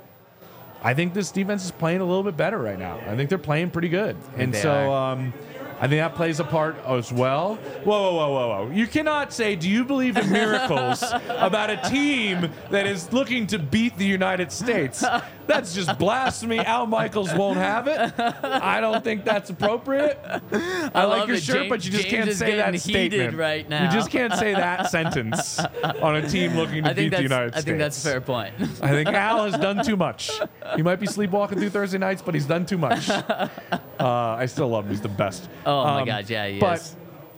B: I think this defense is playing a little bit better right now. I think they're playing pretty good. And so I think that plays a part as well. Whoa. You cannot say, do you believe in miracles about a team that is looking to beat the United States? That's just blasphemy. Al Michaels won't have it. I don't think that's appropriate. I like your shirt, but you just can't say that statement
C: right now.
B: You just can't say that sentence on a team looking to beat the United States.
C: I think that's a fair point.
B: I think Al has done too much. He might be sleepwalking through Thursday nights, but he's done too much. I still love him. He's the best.
C: Oh, my God. Yeah, he
B: but
C: is.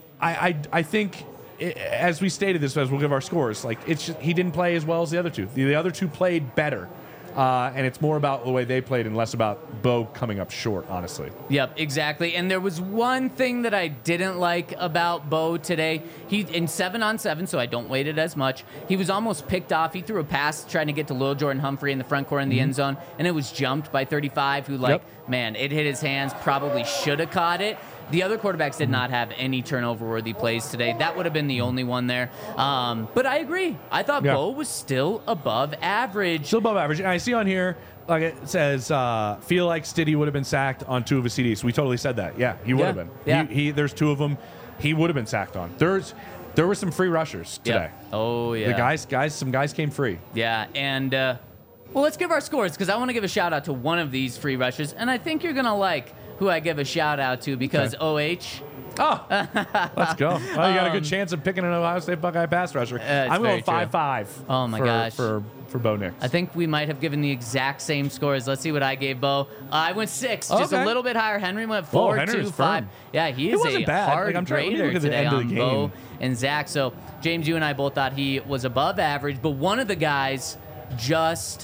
B: I think, as we stated this, as we'll give our scores, like it's just, he didn't play as well as the other two. The other two played better. And it's more about the way they played and less about Bo coming up short, honestly.
C: Yep, exactly. And there was one thing that I didn't like about Bo today. He in 7-on-7, so I don't weight it as much. He was almost picked off. He threw a pass trying to get to Lil Jordan Humphrey in the front corner in the end zone, and it was jumped by 35, who, man, it hit his hands, probably should have caught it. The other quarterbacks did not have any turnover-worthy plays today. That would have been the only one there. But I agree. I thought Bo was still above average.
B: Still above average. And I see on here, like it says, feel like Stiddy would have been sacked on 2 of his CDs. We totally said that. Yeah, he would have been.
C: Yeah.
B: There's 2 of them he would have been sacked on. There were some free rushers today.
C: Oh, yeah.
B: Some guys came free.
C: Yeah, and well, let's give our scores because I want to give a shout-out to one of these free rushers, and I think you're going to like who I give a shout-out to because OH.
B: Oh, let's go. Well, you got a good chance of picking an Ohio State Buckeye pass rusher. I'm going 5-5.
C: Oh, my gosh.
B: For Bo Nix.
C: I think we might have given the exact same scores. Let's see what I gave Bo. I went 6, just a little bit higher. Henry went 4, 2, 5. Yeah, he is a hard grader today on Bo and Zach. So, James, you and I both thought he was above average, but one of the guys just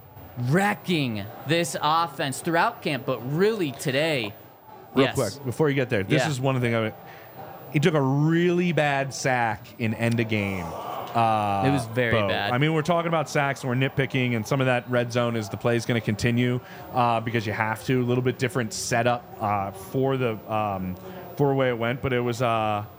C: wrecking this offense throughout camp, but really today.
B: Real quick, before you get there, this is one thing. He took a really bad sack in end of game.
C: It was very bad.
B: I mean, we're talking about sacks and we're nitpicking, and some of that red zone is the play is going to continue because you have to. A little bit different setup for the way it went, but it was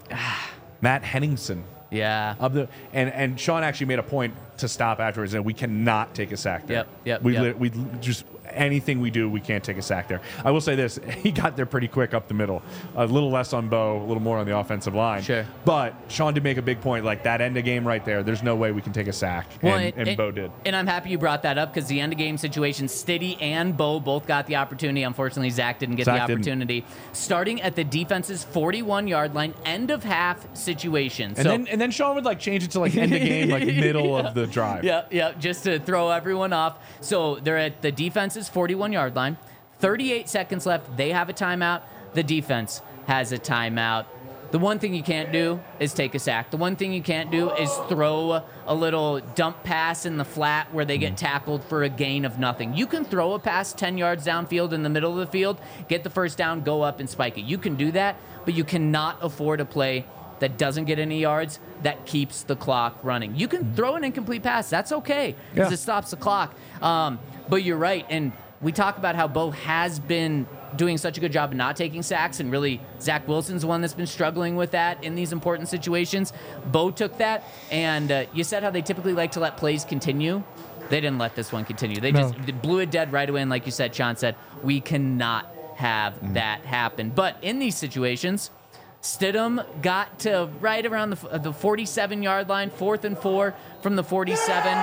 B: Matt Henningsen.
C: Yeah.
B: And Sean actually made a point to stop afterwards, and we cannot take a sack there.
C: Yep.
B: We just anything we do, we can't take a sack there. I will say this: he got there pretty quick up the middle. A little less on Bo, a little more on the offensive line.
C: Sure.
B: But Sean did make a big point, like that end of game right there. There's no way we can take a sack, and Bo did.
C: And I'm happy you brought that up because the end of game situation, Stiddy and Bo both got the opportunity. Unfortunately, Zach didn't get the opportunity. Starting at the defense's 41-yard line, end of half situation.
B: And then Sean would like change it to like end of game, like middle of the drive.
C: Yeah, just to throw everyone off. So they're at the defense's 41-yard line. 38 seconds left. They have a timeout. The defense has a timeout. The one thing you can't do is take a sack. The one thing you can't do is throw a little dump pass in the flat where they get tackled for a gain of nothing. You can throw a pass 10 yards downfield in the middle of the field, get the first down, go up and spike it. You can do that, but you cannot afford a play that doesn't get any yards, that keeps the clock running. You can throw an incomplete pass. That's okay because it stops the clock. But you're right, and we talk about how Bo has been doing such a good job of not taking sacks, and really Zach Wilson's the one that's been struggling with that in these important situations. Bo took that, and you said how they typically like to let plays continue. They didn't let this one continue. They just blew it dead right away, and like you said, Sean said, we cannot have that happen. But in these situations, Stidham got to right around the 47-yard line, 4th and 4 from the 47.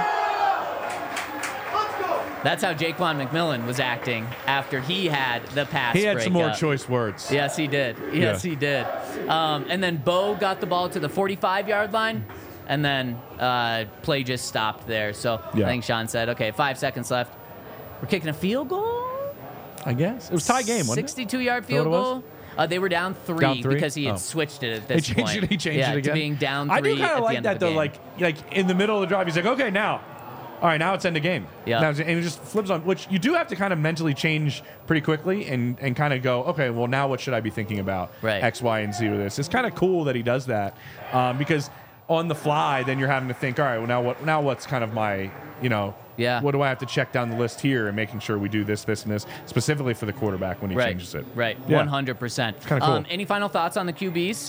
C: That's how Jaquan McMillan was acting after he had the pass.
B: He had some more
C: up.
B: choice words.
C: Yes, he did. He did. And then Bo got the ball to the 45-yard line, and then play just stopped there. So I think Sean said, okay, 5 seconds left. We're kicking a field goal?
B: I guess. It was tie game, wasn't it?
C: 62-yard field goal. They were down three because he had switched it at this point.
B: He changed it again.
C: To being down 3
B: I do kind of like that, though. Like in the middle of the drive, he's like, okay, now. All right, now it's end of game.
C: Yeah.
B: And he just flips on, which you do have to kind of mentally change pretty quickly and kind of go, okay, well, now what should I be thinking about?
C: Right.
B: X, Y, and Z with this. It's kind of cool that he does that because on the fly, then you're having to think, all right, well, now what's kind of my, what do I have to check down the list here and making sure we do this, this, and this, specifically for the quarterback when he changes it.
C: Right,
B: yeah.
C: 100%.
B: It's kind of cool.
C: Any final thoughts on the QBs?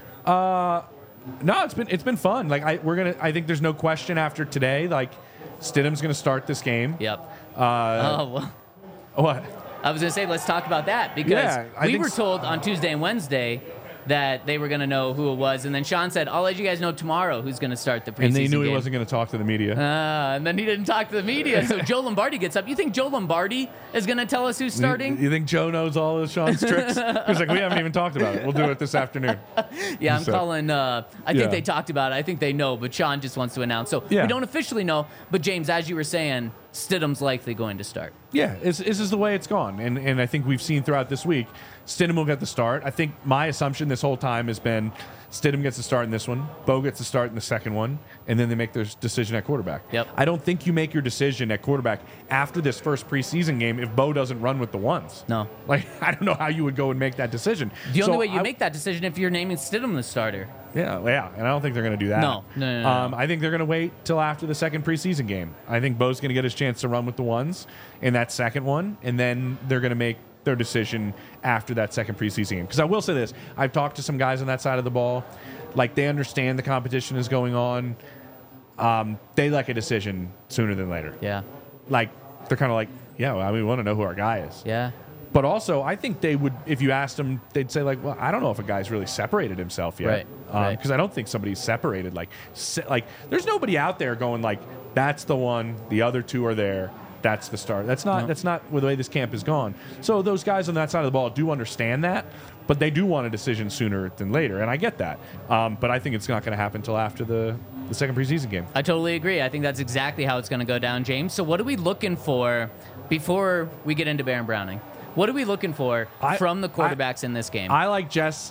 B: No, it's been fun. Like I think there's no question after today. Like Stidham's going to start this game.
C: Yep.
B: What?
C: I was going to say, let's talk about that because
B: Yeah, I
C: we
B: think
C: were told on Tuesday and Wednesday that they were going to know who it was. And then Sean said, I'll let you guys know tomorrow who's going to start the preseason
B: And they knew
C: game.
B: he wasn't going to talk to the media.
C: And then he didn't talk to the media. So Joe Lombardi gets up. You think Joe Lombardi is going to tell us who's starting?
B: You think Joe knows all of Sean's tricks? He's like, we haven't even talked about it. We'll do it this afternoon.
C: Yeah, I'm
B: So-
C: calling. I think they talked about it. I think they know, but Sean just wants to announce. So
B: Yeah.
C: we don't officially know. But James, as you were saying, Stidham's likely going to start.
B: Yeah, this is the way it's gone. And I think we've seen throughout this week, Stidham will get the start. I think my assumption this whole time has been Stidham gets the start in this one, Bo gets the start in the second one, and then they make their decision at quarterback.
C: Yep.
B: I don't think you make your decision at quarterback after this first preseason game if Bo doesn't run with the ones.
C: No.
B: Like, I don't know how you would go and make that decision.
C: The only
B: So
C: way you
B: I-
C: make that decision if you're naming Stidham the starter.
B: Yeah, and I don't think they're going to do that.
C: No.
B: I think they're going to wait till after the second preseason game. I think Bo's going to get his chance to run with the ones in that second one, and then they're going to make their decision after that second preseason game. Because I will say this, I've talked to some guys on that side of the ball. Like, they understand the competition is going on. They like a decision sooner than later.
C: Yeah.
B: Like, they're kind of like, yeah, well, we want to know who our guy is.
C: Yeah.
B: But also, I think they would, if you asked them, they'd say, like, well, I don't know if a guy's really separated himself yet.
C: Right.
B: Because I don't think somebody's separated. Like, there's nobody out there going, like, that's the one, the other two are there, that's the start. That's not the way this camp has gone. So those guys on that side of the ball do understand that, but they do want a decision sooner than later, and I get that. But I think it's not going to happen until after the second preseason game.
C: I totally agree. I think that's exactly how it's going to go down, James. So what are we looking for before we get into Baron Browning? What are we looking for from the quarterbacks in this game?
B: I like Jess'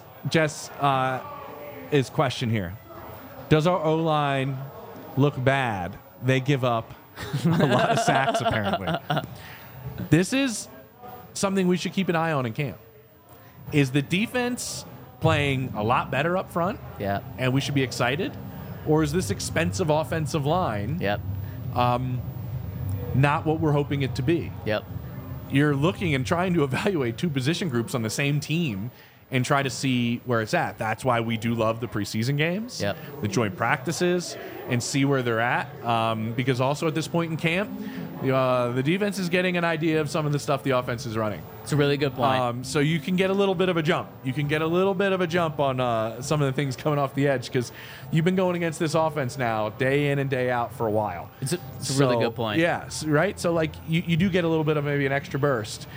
B: question here. Does our O-line look bad? They give up a lot of sacks, apparently. This is something we should keep an eye on in camp. Is the defense playing a lot better up front?
C: Yeah.
B: And we should be excited? Or is this expensive offensive line
C: Yep.
B: not what we're hoping it to be?
C: Yep.
B: You're looking and trying to evaluate two position groups on the same team and try to see where it's at. That's why we do love the preseason games,
C: Yep.
B: the joint practices, and see where they're at. Because also at this point in camp, the defense is getting an idea of some of the stuff the offense is running.
C: It's a really good point.
B: So you can get a little bit of a jump. You can get a little bit of a jump on some of the things coming off the edge because you've been going against this offense now day in and day out for a while.
C: It's a really good point.
B: Yeah, right? So, like, you do get a little bit of maybe an extra burst.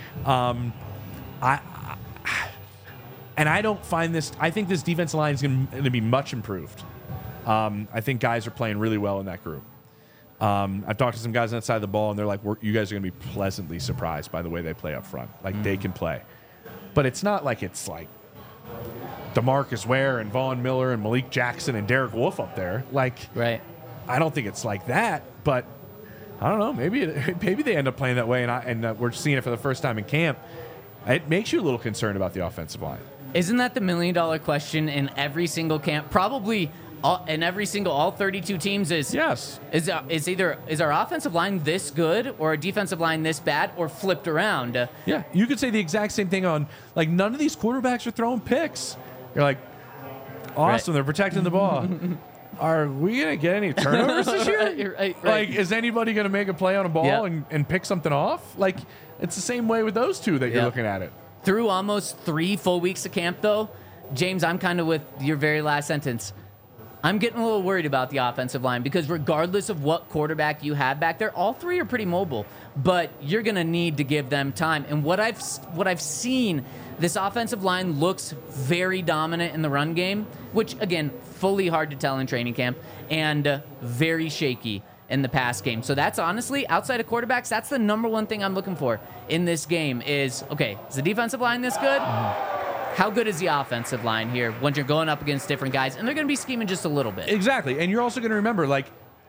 B: I don't find this – I think this defensive line is going to be much improved. I think guys are playing really well in that group. I've talked to some guys on that side of the ball, and they're like, you guys are going to be pleasantly surprised by the way they play up front. Like, they can play. But it's not like it's like DeMarcus Ware and Vaughn Miller and Malik Jackson and Derek Wolfe up there. Like,
C: Right.
B: I don't think it's like that, but I don't know. Maybe they end up playing that way, and we're seeing it for the first time in camp. It makes you a little concerned about the offensive line.
C: Isn't that the $1 million question in every single camp? Probably in every single, all 32 teams is
B: Yes.
C: Is our offensive line this good or our defensive line this bad or flipped around?
B: Yeah, you could say the exact same thing on, like, none of these quarterbacks are throwing picks. You're like, awesome, They're protecting the ball. Are we going to get any turnovers this year?
C: right.
B: Like, is anybody going to make a play on a ball
C: Yep.
B: and pick something off? Like, it's the same way with those two that you're
C: Yep.
B: looking at it.
C: Through almost 3 full weeks of camp, though, James, I'm kind of with your very last sentence. I'm getting a little worried about the offensive line because regardless of what quarterback you have back there, all three are pretty mobile, but you're going to need to give them time. And what I've seen, this offensive line looks very dominant in the run game, which, again, fully hard to tell in training camp, and very shaky in the pass game. So that's honestly, outside of quarterbacks, that's the number one thing I'm looking for in this game is, okay, is the defensive line this good? How good is the offensive line here when you're going up against different guys? And they're going to be scheming just a little bit.
B: Exactly. And you're also going to remember, like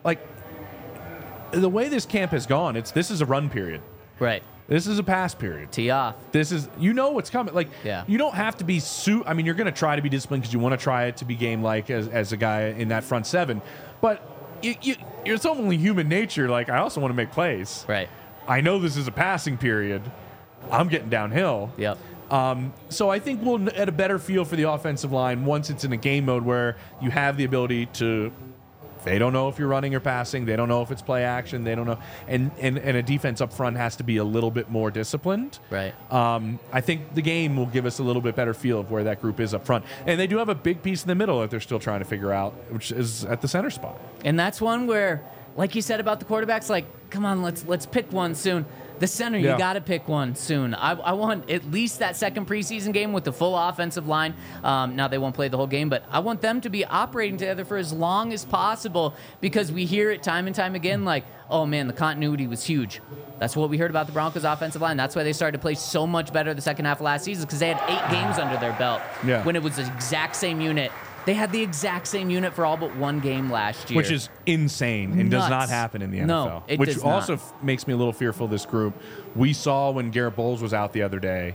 B: the way this camp has gone, this is a run period.
C: Right.
B: This is a pass period.
C: Tee off.
B: This is, what's coming. Like,
C: Yeah.
B: you don't have to be I mean, you're going to try to be disciplined because you want to try it to be game-like as a guy in that front seven. But it's only human nature. Like, I also want to make plays.
C: Right.
B: I know this is a passing period. I'm getting downhill.
C: Yep.
B: So I think we'll get a better feel for the offensive line once it's in a game mode where you have the ability to They don't know if you're running or passing. They don't know if it's play action. They don't know. And a defense up front has to be a little bit more disciplined.
C: Right.
B: I think the game will give us a little bit better feel of where that group is up front. And they do have a big piece in the middle that they're still trying to figure out, which is at the center spot.
C: And that's one where, like you said about the quarterbacks, like, come on, let's pick one soon. The center, you got to pick one soon. I want at least that second preseason game with the full offensive line. Now, they won't play the whole game, but I want them to be operating together for as long as possible because we hear it time and time again like, oh, man, the continuity was huge. That's what we heard about the Broncos' offensive line. That's why they started to play so much better the second half of last season because they had 8 games under their belt when it was the exact same unit. They had the exact same unit for all but one game last year.
B: Which is insane and does not happen in the NFL.
C: No, it
B: which
C: does
B: also
C: not.
B: Makes me a little fearful of this group. We saw when Garrett Bowles was out the other day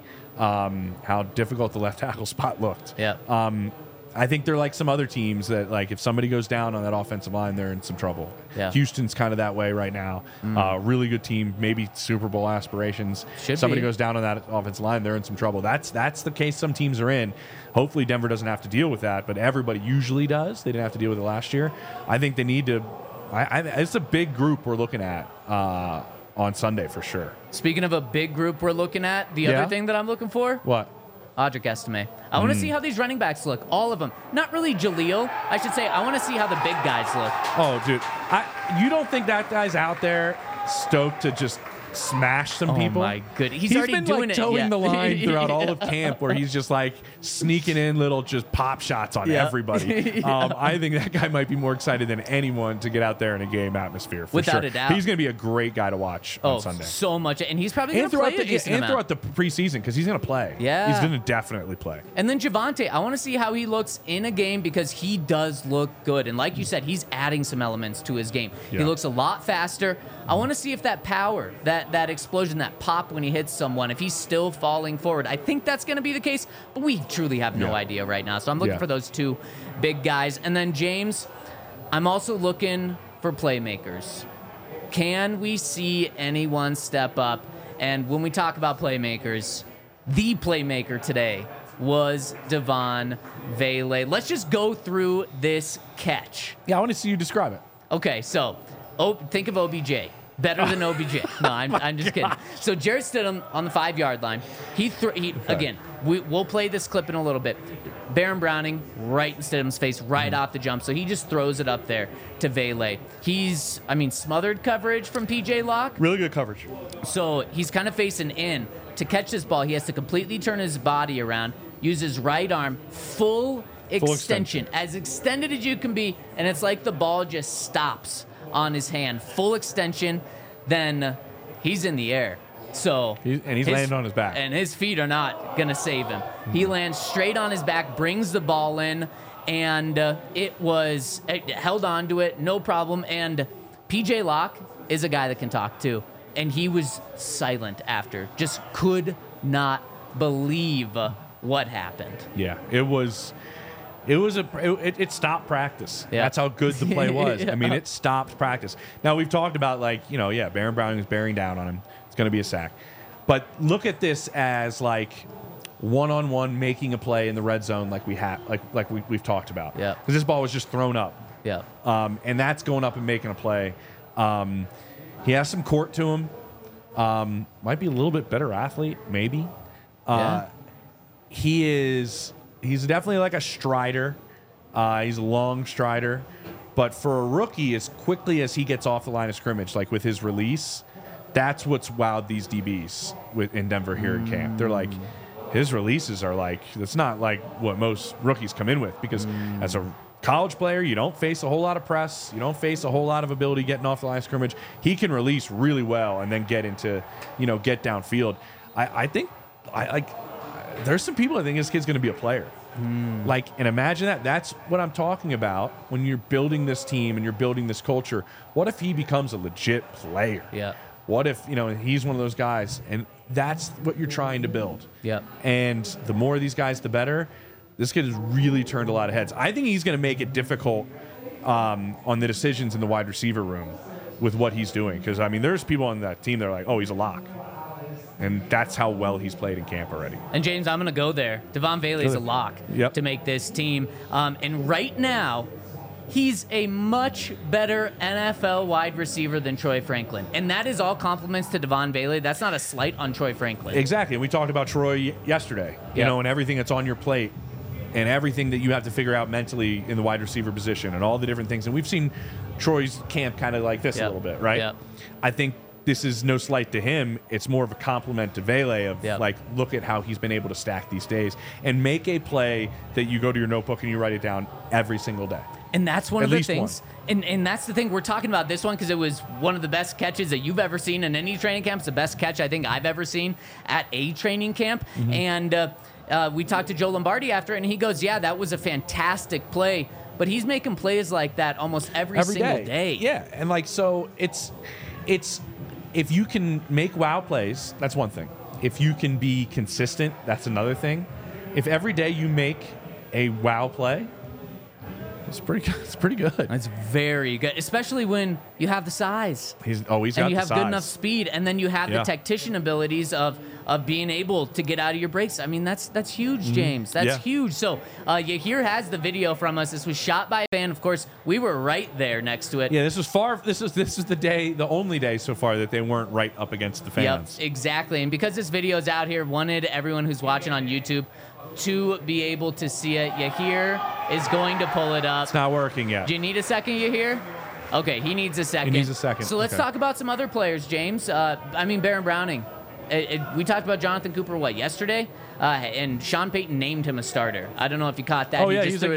B: how difficult the left tackle spot looked.
C: Yeah.
B: I think they're like some other teams that, like, if somebody goes down on that offensive line, they're in some trouble.
C: Yeah.
B: Houston's kind of that way right now. Really good team, maybe Super Bowl aspirations.
C: Should
B: somebody
C: be.
B: goes down on that offensive line, they're in some trouble. That's the case some teams are in. Hopefully Denver doesn't have to deal with that, but everybody usually does. They didn't have to deal with it last year. I think they need to. It's a big group we're looking at on Sunday for sure.
C: Speaking of a big group we're looking at, the other thing that I'm looking for,
B: What?
C: Audric Estime. I want to see how these running backs look, all of them. Not really Jaleel. I should say I want to see how the big guys look.
B: Oh, dude. You don't think that guy's out there stoked to just smash some people?
C: Oh, my goodness. He's
B: He's
C: already
B: been
C: doing
B: like
C: it.
B: towing
C: Yeah.
B: the line throughout all of camp where he's just like sneaking in little just pop shots on everybody. I think that guy might be more excited than anyone to get out there in a game atmosphere for
C: Without
B: sure.
C: a doubt.
B: He's going to be a great guy to watch on Sunday.
C: So much. And he's probably going
B: And
C: to play
B: throughout,
C: a decent amount.
B: throughout the preseason because he's going to play.
C: Yeah.
B: He's going to definitely play.
C: And then Javonte, I want to see how he looks in a game because he does look good. And like you said, he's adding some elements to his game.
B: Yeah.
C: He looks a lot faster. I want to see if that power, that explosion, that pop when he hits someone, if he's still falling forward. I think that's going to be the case, but we truly have no idea right now. So I'm looking for those two big guys. And then, James, I'm also looking for playmakers. Can we see anyone step up? And when we talk about playmakers, the playmaker today was Devon Vele. Let's just go through this catch.
B: Yeah, I want to see you describe it.
C: Okay, so think of OBJ. Better than OBJ. No, I'm just kidding. So Jarrett Stidham on the 5-yard line. Again, we'll play this clip in a little bit. Baron Browning right in Stidham's face right off the jump. So he just throws it up there to Vele. He's, smothered coverage from PJ Locke.
D: Really good coverage.
C: So he's kind of facing in. To catch this ball, he has to completely turn his body around, use his right arm, full extension, as extended as you can be, and it's like the ball just stops on his hand. Full extension, then he's in the air. So
B: He's landing on his back.
C: And his feet are not going to save him. He lands straight on his back, brings the ball in, and it held on to it, no problem. And PJ Locke is a guy that can talk too. And he was silent after. Just could not believe what happened.
B: Yeah, it stopped practice.
C: Yeah.
B: That's how good the play was.
C: Yeah.
B: It stopped practice. Now we've talked about Baron Browning is bearing down on him. It's going to be a sack. But look at this as like one-on-one making a play in the red zone like we've talked about.
C: Yeah.
B: Because this ball was just thrown up.
C: Yeah.
B: And that's going up and making a play. He has some court to him. Might be a little bit better athlete, maybe.
C: Yeah.
B: He's definitely like a strider. He's a long strider. But for a rookie, as quickly as he gets off the line of scrimmage, like with his release, that's what's wowed these DBs in Denver here in camp. They're like, his releases are like, that's not like what most rookies come in with. Because as a college player, you don't face a whole lot of press. You don't face a whole lot of ability getting off the line of scrimmage. He can release really well and then get downfield. I think there's some people that think this kid's going to be a player. And imagine that. That's what I'm talking about when you're building this team and you're building this culture. What if he becomes a legit player?
C: Yeah.
B: What if, he's one of those guys and that's what you're trying to build.
C: Yeah.
B: And the more of these guys, the better. This kid has really turned a lot of heads. I think he's going to make it difficult on the decisions in the wide receiver room with what he's doing. Because, there's people on that team that are like, oh, he's a lock. And that's how well he's played in camp already.
C: And, James, I'm going to go there. Devon Vele is a lock
B: Yep.
C: to make this team. And right now, he's a much better NFL wide receiver than Troy Franklin. And that is all compliments to Devon Bailey. That's not a slight on Troy Franklin.
B: Exactly. And we talked about Troy yesterday, you know, and everything that's on your plate and everything that you have to figure out mentally in the wide receiver position and all the different things. And we've seen Troy's camp kind of like this a little bit, right? I think this is no slight to him. It's more of a compliment to Vele of like, look at how he's been able to stack these days and make a play that you go to your notebook and you write it down every single day.
C: And that's one of the things. And that's the thing. We're talking about this one because it was one of the best catches that you've ever seen in any training camp. It's the best catch I think I've ever seen at a training camp. And we talked to Joe Lombardi after, and he goes, yeah, that was a fantastic play. But he's making plays like that almost every single day.
B: Yeah. And like, so it's if you can make wow plays, that's one thing. If you can be consistent, that's another thing. If every day you make a wow play, it's pretty good.
C: That's very good, especially when you have the size.
B: He's got
C: and you
B: the
C: have
B: size.
C: good enough speed, and then you have the tactician abilities of being able to get out of your breaks. I mean, that's huge, James. That's huge. So Yahir has the video from us. This was shot by a fan. Of course, we were right there next to it.
B: Yeah, this is the only day so far that they weren't right up against the fans.
C: Yep, exactly. And because this video is out here, wanted everyone who's watching on YouTube to be able to see it. Yahir is going to pull it up.
B: It's not working yet.
C: Do you need a second, Yahir? Okay, he needs a second.
B: He needs a second.
C: So let's talk about some other players, James. Baron Browning. We talked about Jonathan Cooper, yesterday? And Sean Payton named him a starter. I don't know if you caught that.
B: Oh, yeah. He is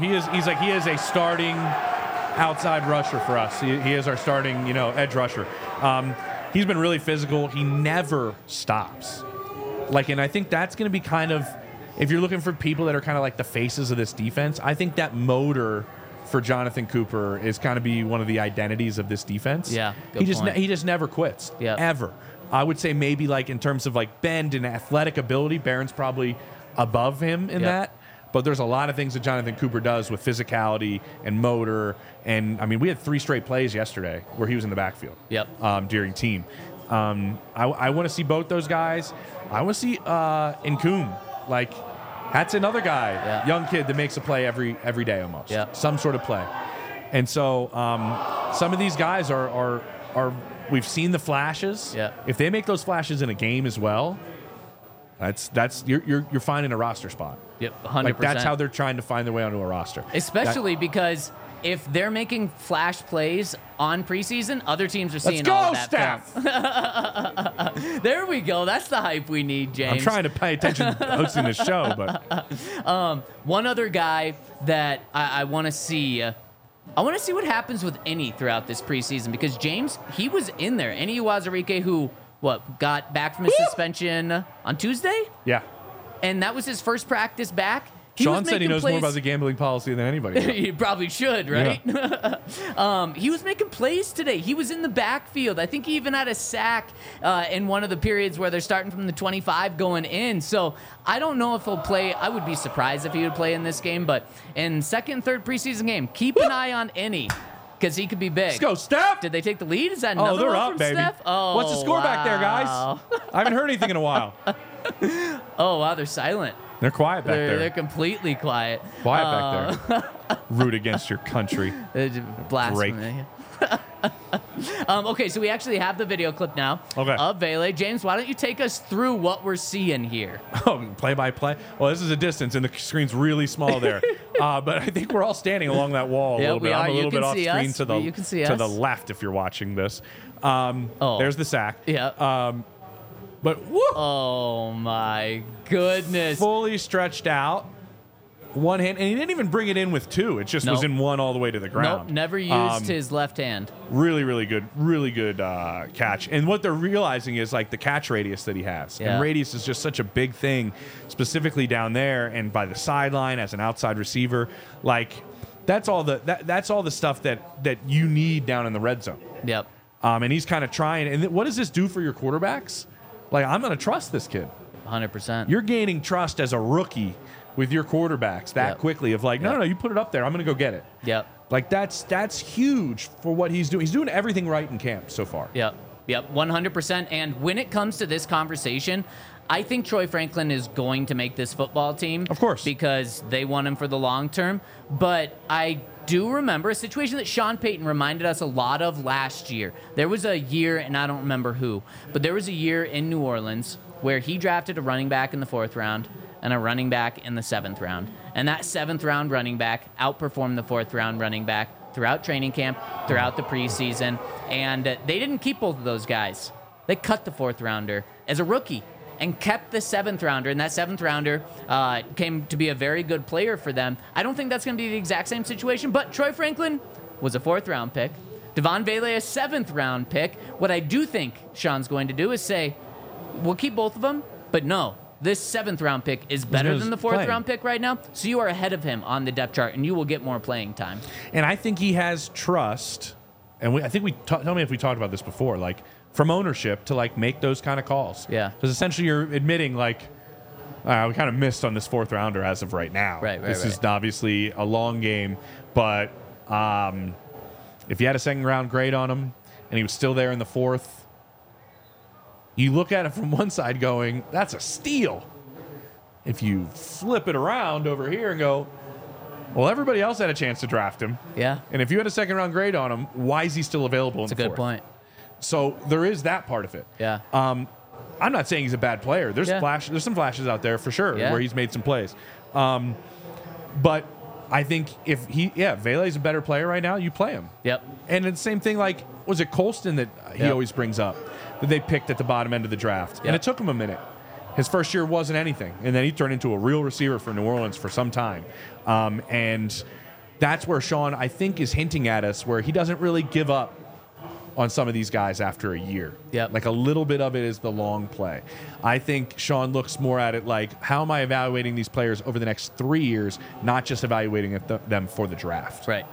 B: a starting outside rusher for us. He is our starting, edge rusher. He's been really physical. He never stops. And I think that's going to be kind of, if you're looking for people that are kind of like the faces of this defense, I think that motor for Jonathan Cooper is kind of be one of the identities of this defense.
C: Yeah,
B: he just never quits, ever. I would say maybe in terms of bend and athletic ability, Barron's probably above him in that. But there's a lot of things that Jonathan Cooper does with physicality and motor. And, I mean, we had 3 straight plays yesterday where he was in the backfield during team. I want to see both those guys. I want to see Nkoum. That's another guy, young kid that makes a play every day almost. Some sort of play. And so some of these guys are we've seen the flashes. If they make those flashes in a game as well, you're finding a roster spot.
C: 100%.
B: That's how they're trying to find their way onto a roster.
C: Especially because if they're making flash plays on preseason, other teams are seeing all of that film. There we go. That's the hype we need, James.
B: I'm trying to pay attention to hosting this show, but
C: one other guy that I want to see. I want to see what happens with Eni throughout this preseason because James, he was in there. Eni Uwazurike, who got back from his suspension on Tuesday?
B: Yeah.
C: And that was his first practice back.
B: Sean said he knows more about the gambling policy than anybody.
C: He probably should, right? Yeah. He was making plays today. He was in the backfield. I think he even had a sack in one of the periods where they're starting from the 25 going in. So I don't know if he'll play. I would be surprised if he would play in this game. But in second and third preseason game, keep an eye on Eni because he could be big.
B: Let's go, Steph.
C: Did they take the lead? Is that another
B: they're
C: one
B: up,
C: from
B: baby.
C: Steph? Oh,
B: what's the score back there, guys? I haven't heard anything in a while.
C: Oh, wow, they're silent.
B: They're quiet back there.
C: They're completely quiet.
B: Quiet back there. Root against your country.
C: Blasphemy. Okay, so we actually have the video clip now of Vele. James, why don't you take us through what we're seeing here?
B: Oh, play by play? Well, this is a distance, and the screen's really small there. But I think we're all standing along that wall a little bit. I'm a little bit off screen to the left if you're watching this. There's the sack.
C: Yeah.
B: But woo!
C: Oh my goodness!
B: Fully stretched out, one hand, and he didn't even bring it in with 2. It just was in one all the way to the ground.
C: Nope, never used his left hand.
B: Really, really good catch. And what they're realizing is the catch radius that he has.
C: Yeah.
B: And radius is just such a big thing, specifically down there and by the sideline as an outside receiver. That's all the stuff that you need down in the red zone.
C: Yep.
B: And he's kind of trying. And what does this do for your quarterbacks? I'm going to trust this kid.
C: 100%.
B: You're gaining trust as a rookie with your quarterbacks that quickly of no, you put it up there. I'm going to go get it.
C: Yep.
B: That's huge for what he's doing. He's doing everything right in camp so far.
C: Yep. 100%. And when it comes to this conversation, I think Troy Franklin is going to make this football team.
B: Of course.
C: Because they want him for the long term. But I do remember a situation that Sean Payton reminded us a lot of last year. There was a year, and I don't remember who, but there was a year in New Orleans where he drafted a running back in the 4th round and a running back in the 7th round. And that 7th round running back outperformed the 4th round running back throughout training camp, throughout the preseason. And they didn't keep both of those guys. They cut the 4th rounder as a rookie and kept the 7th rounder. And that 7th rounder came to be a very good player for them. I don't think that's going to be the exact same situation, but Troy Franklin was a 4th round pick. Devon Vele, a 7th round pick. What I do think Sean's going to do is say, we'll keep both of them, but no, this 7th round pick is better than the 4th round pick right now. So you are ahead of him on the depth chart, and you will get more playing time.
B: And I think he has trust. And I think tell me if we talked about this before, like from ownership to like make those kind of calls.
C: Yeah.
B: Because essentially you're admitting like, we kind of missed on this 4th rounder as of right now. This is obviously a long game, but if you had a 2nd round grade on him and he was still there in the 4th, you look at it from one side going, that's a steal. If you flip it around over here and go, well, everybody else had a chance to draft him.
C: Yeah.
B: And if you had a 2nd round grade on him, why is he still available in the 4th?
C: That's a good point.
B: So there is that part of it.
C: Yeah.
B: I'm not saying he's a bad player. There's there's some flashes out there for sure where he's made some plays. But I think if Vele's a better player right now, you play him.
C: Yep.
B: And it's the same thing like, was it Colston that he always brings up that they picked at the bottom end of the draft?
C: Yep.
B: And it took him a minute. His first year wasn't anything. And then he turned into a real receiver for New Orleans for some time. And that's where Sean, I think, is hinting at us where he doesn't really give up on some of these guys after a year.
C: Yep.
B: Like a little bit of it is the long play. I think Sean looks more at it like, how am I evaluating these players over the next 3 years, not just evaluating them for the draft.
C: Right.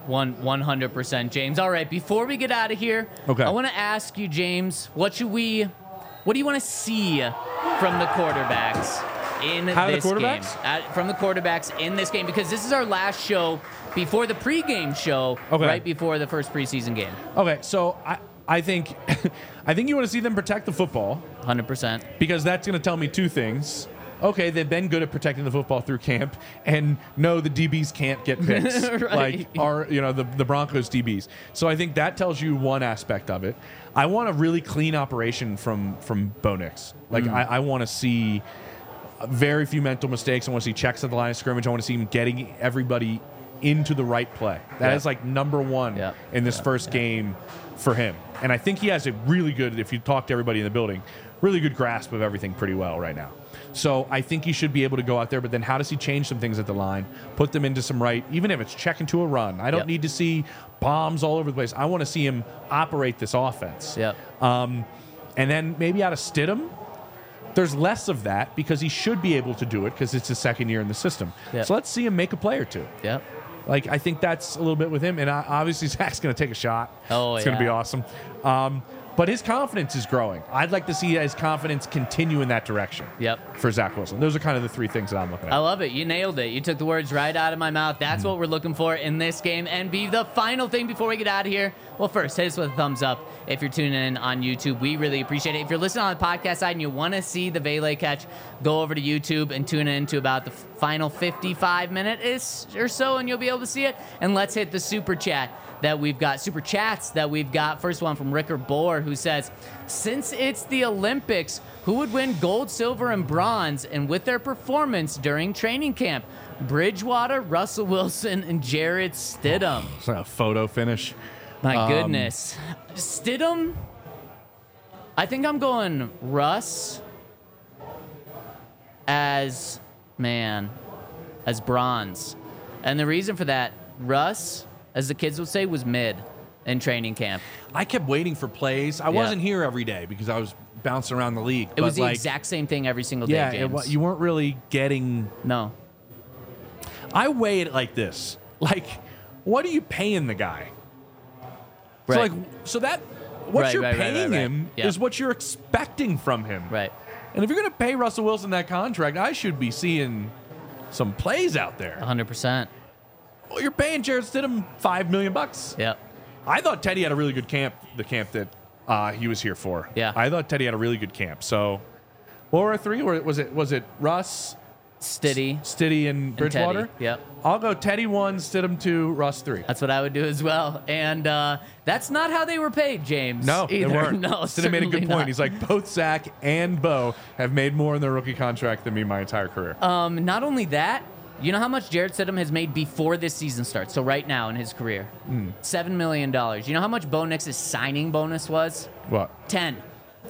C: 100%, James. All right, before we get out of here,
B: okay,
C: I want to ask you, James, what do you want to see from the quarterbacks in this game? From the quarterbacks in this game, because this is our last show before the pregame show, right before the first preseason game.
B: Okay, so I think you want to see them protect the football.
C: 100%.
B: Because that's going to tell me two things. Okay, they've been good at protecting the football through camp, and no, the DBs can't get picks
C: right.
B: like the Broncos DBs. So I think that tells you one aspect of it. I want a really clean operation from Bo Nix. Like I want to see very few mental mistakes. I want to see checks at the line of scrimmage. I want to see him getting everybody into the right play. That is like number one in this first game for him. And I think he has a really good, if you talk to everybody in the building, really good grasp of everything pretty well right now. So I think he should be able to go out there, but then how does he change some things at the line, put them into some right, even if it's checking to a run. I don't need to see bombs all over the place. I want to see him operate this offense. And then maybe out of Stidham, there's less of that because he should be able to do it because it's his second year in the system. So let's see him make a play or two. Like, I think that's a little bit with him. And obviously, Zach's going to take a shot. It's going to be awesome. But his confidence is growing. I'd like to see his confidence continue in that direction for Zach Wilson. Those are kind of the three things that I'm looking at.
C: I love it. You nailed it. You took the words right out of my mouth. That's what we're looking for in this game. And the final thing before we get out of here, well, first, hit us with a thumbs up if you're tuning in on YouTube. We really appreciate it. If you're listening on the podcast side and you want to see the Vele catch, go over to YouTube and tune in to about the final 55 minutes or so, and you'll be able to see it. And let's hit the super chats that we've got. First one from Rickard Bohr, who says, since it's the Olympics, who would win gold, silver, and bronze, and with their performance during training camp? Bridgewater, Russell Wilson, and Jarrett Stidham.
B: It's a photo finish.
C: My goodness. Stidham, I think I'm going Russ as bronze. And the reason for that, Russ, as the kids would say, was mid in training camp.
B: I kept waiting for plays. I wasn't here every day because I was bouncing around the league.
C: It was the exact same thing every single day, James.
B: You weren't really getting...
C: No.
B: I weigh it like this. Like, what are you paying the guy?
C: Right.
B: What you're paying him is what you're expecting from him.
C: Right.
B: And if you're going to pay Russell Wilson that contract, I should be seeing some plays out there.
C: 100%.
B: Well, you're paying Jarrett Stidham $5 million.
C: Yep.
B: I thought Teddy had a really good camp, the camp that he was here for.
C: Yeah.
B: I thought Teddy had a really good camp. So, what were our three? Or was it Russ, Stiddy and Bridgewater.
C: Teddy. Yep.
B: I'll go Teddy 1, Stidham 2, Russ 3.
C: That's what I would do as well. And that's not how they were paid, James.
B: No, they
C: either.
B: weren't.
C: No,
B: Stidham made a good
C: certainly
B: point.
C: not.
B: He's like, both Zach and Bo have made more in their rookie contract than me my entire career.
C: Not only that, you know how much Jarrett Stidham has made before this season starts? So right now in his career, $7 million. You know how much Bo Nix's signing bonus was?
B: What?
C: 10.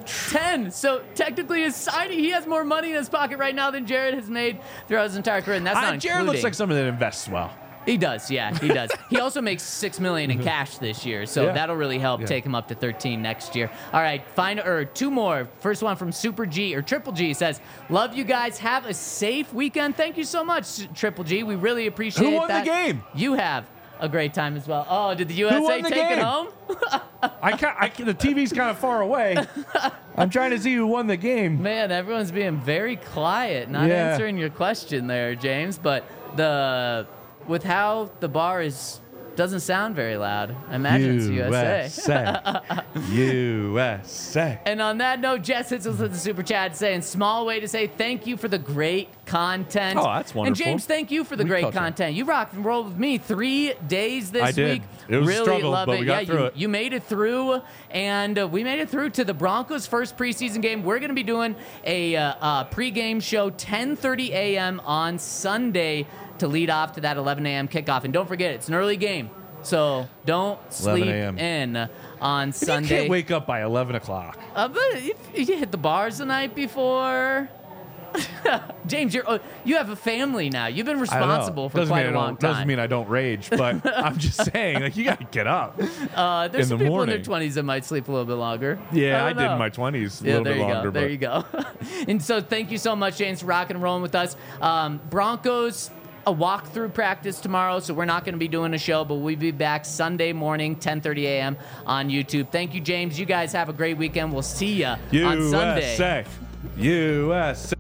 C: So technically his signing, he has more money in his pocket right now than Jared has made throughout his entire career, and that's not
B: Jared looks like someone that invests well.
C: He does, yeah, he does. He also makes $6 million in cash this year, so
B: Yeah.
C: that'll really help take him up to 13 next year. All right, two more. First one from Super G or Triple G says, "Love you guys. Have a safe weekend." Thank you so much, Triple G. We really appreciate
B: Who won
C: that.
B: the game?
C: You have a great time as well. Oh, did the USA
B: won the
C: take it
B: game?
C: home?
B: The TV's kind of far away. I'm trying to see who won the game.
C: Man, everyone's being very quiet, not
B: Yeah.
C: answering your question there, James. But with how the bar doesn't sound very loud. I imagine it's USA.
B: USA.
C: And on that note, Jess hits us with the super chat saying, "Small way to say thank you for the great content."
D: Oh, that's wonderful.
C: And James, thank you for the great
B: culture.
C: content. You rocked and rolled with me 3 days this
B: I did.
C: week.
B: It was a
C: really
B: struggle,
C: love
B: but
C: it.
B: we got through it.
C: You made it through, and we made it through to the Broncos' first preseason game. We're going to be doing a pregame show 10:30 a.m. on Sunday to lead off to that 11 a.m. kickoff. And don't forget, it's an early game, so don't sleep
B: 11 a.m.
C: in on
B: You
C: Sunday.
B: can't wake up by 11 o'clock.
C: But if you hit the bars the night before. James, you have a family now. You've been
B: I don't know.
C: responsible for
B: Doesn't
C: quite
B: mean
C: a
B: I
C: long
B: don't-
C: time.
B: Doesn't mean I don't rage, but I'm just saying, like, you got to get up.
C: There's
B: in
C: some
B: the
C: people
B: morning.
C: in their 20s that might sleep a little bit longer.
B: Yeah, I
C: don't
B: did
C: know.
B: in my 20s a
C: Yeah,
B: little
C: there
B: bit
C: you
B: longer.
C: go. There
B: but
C: you go. And so thank you so much, James, for rocking and rolling with us. Broncos, a walkthrough practice tomorrow, so we're not going to be doing a show, but we'll be back Sunday morning, 10:30 a.m. on YouTube. Thank you, James. You guys have a great weekend. We'll see you on Sunday.
B: USA.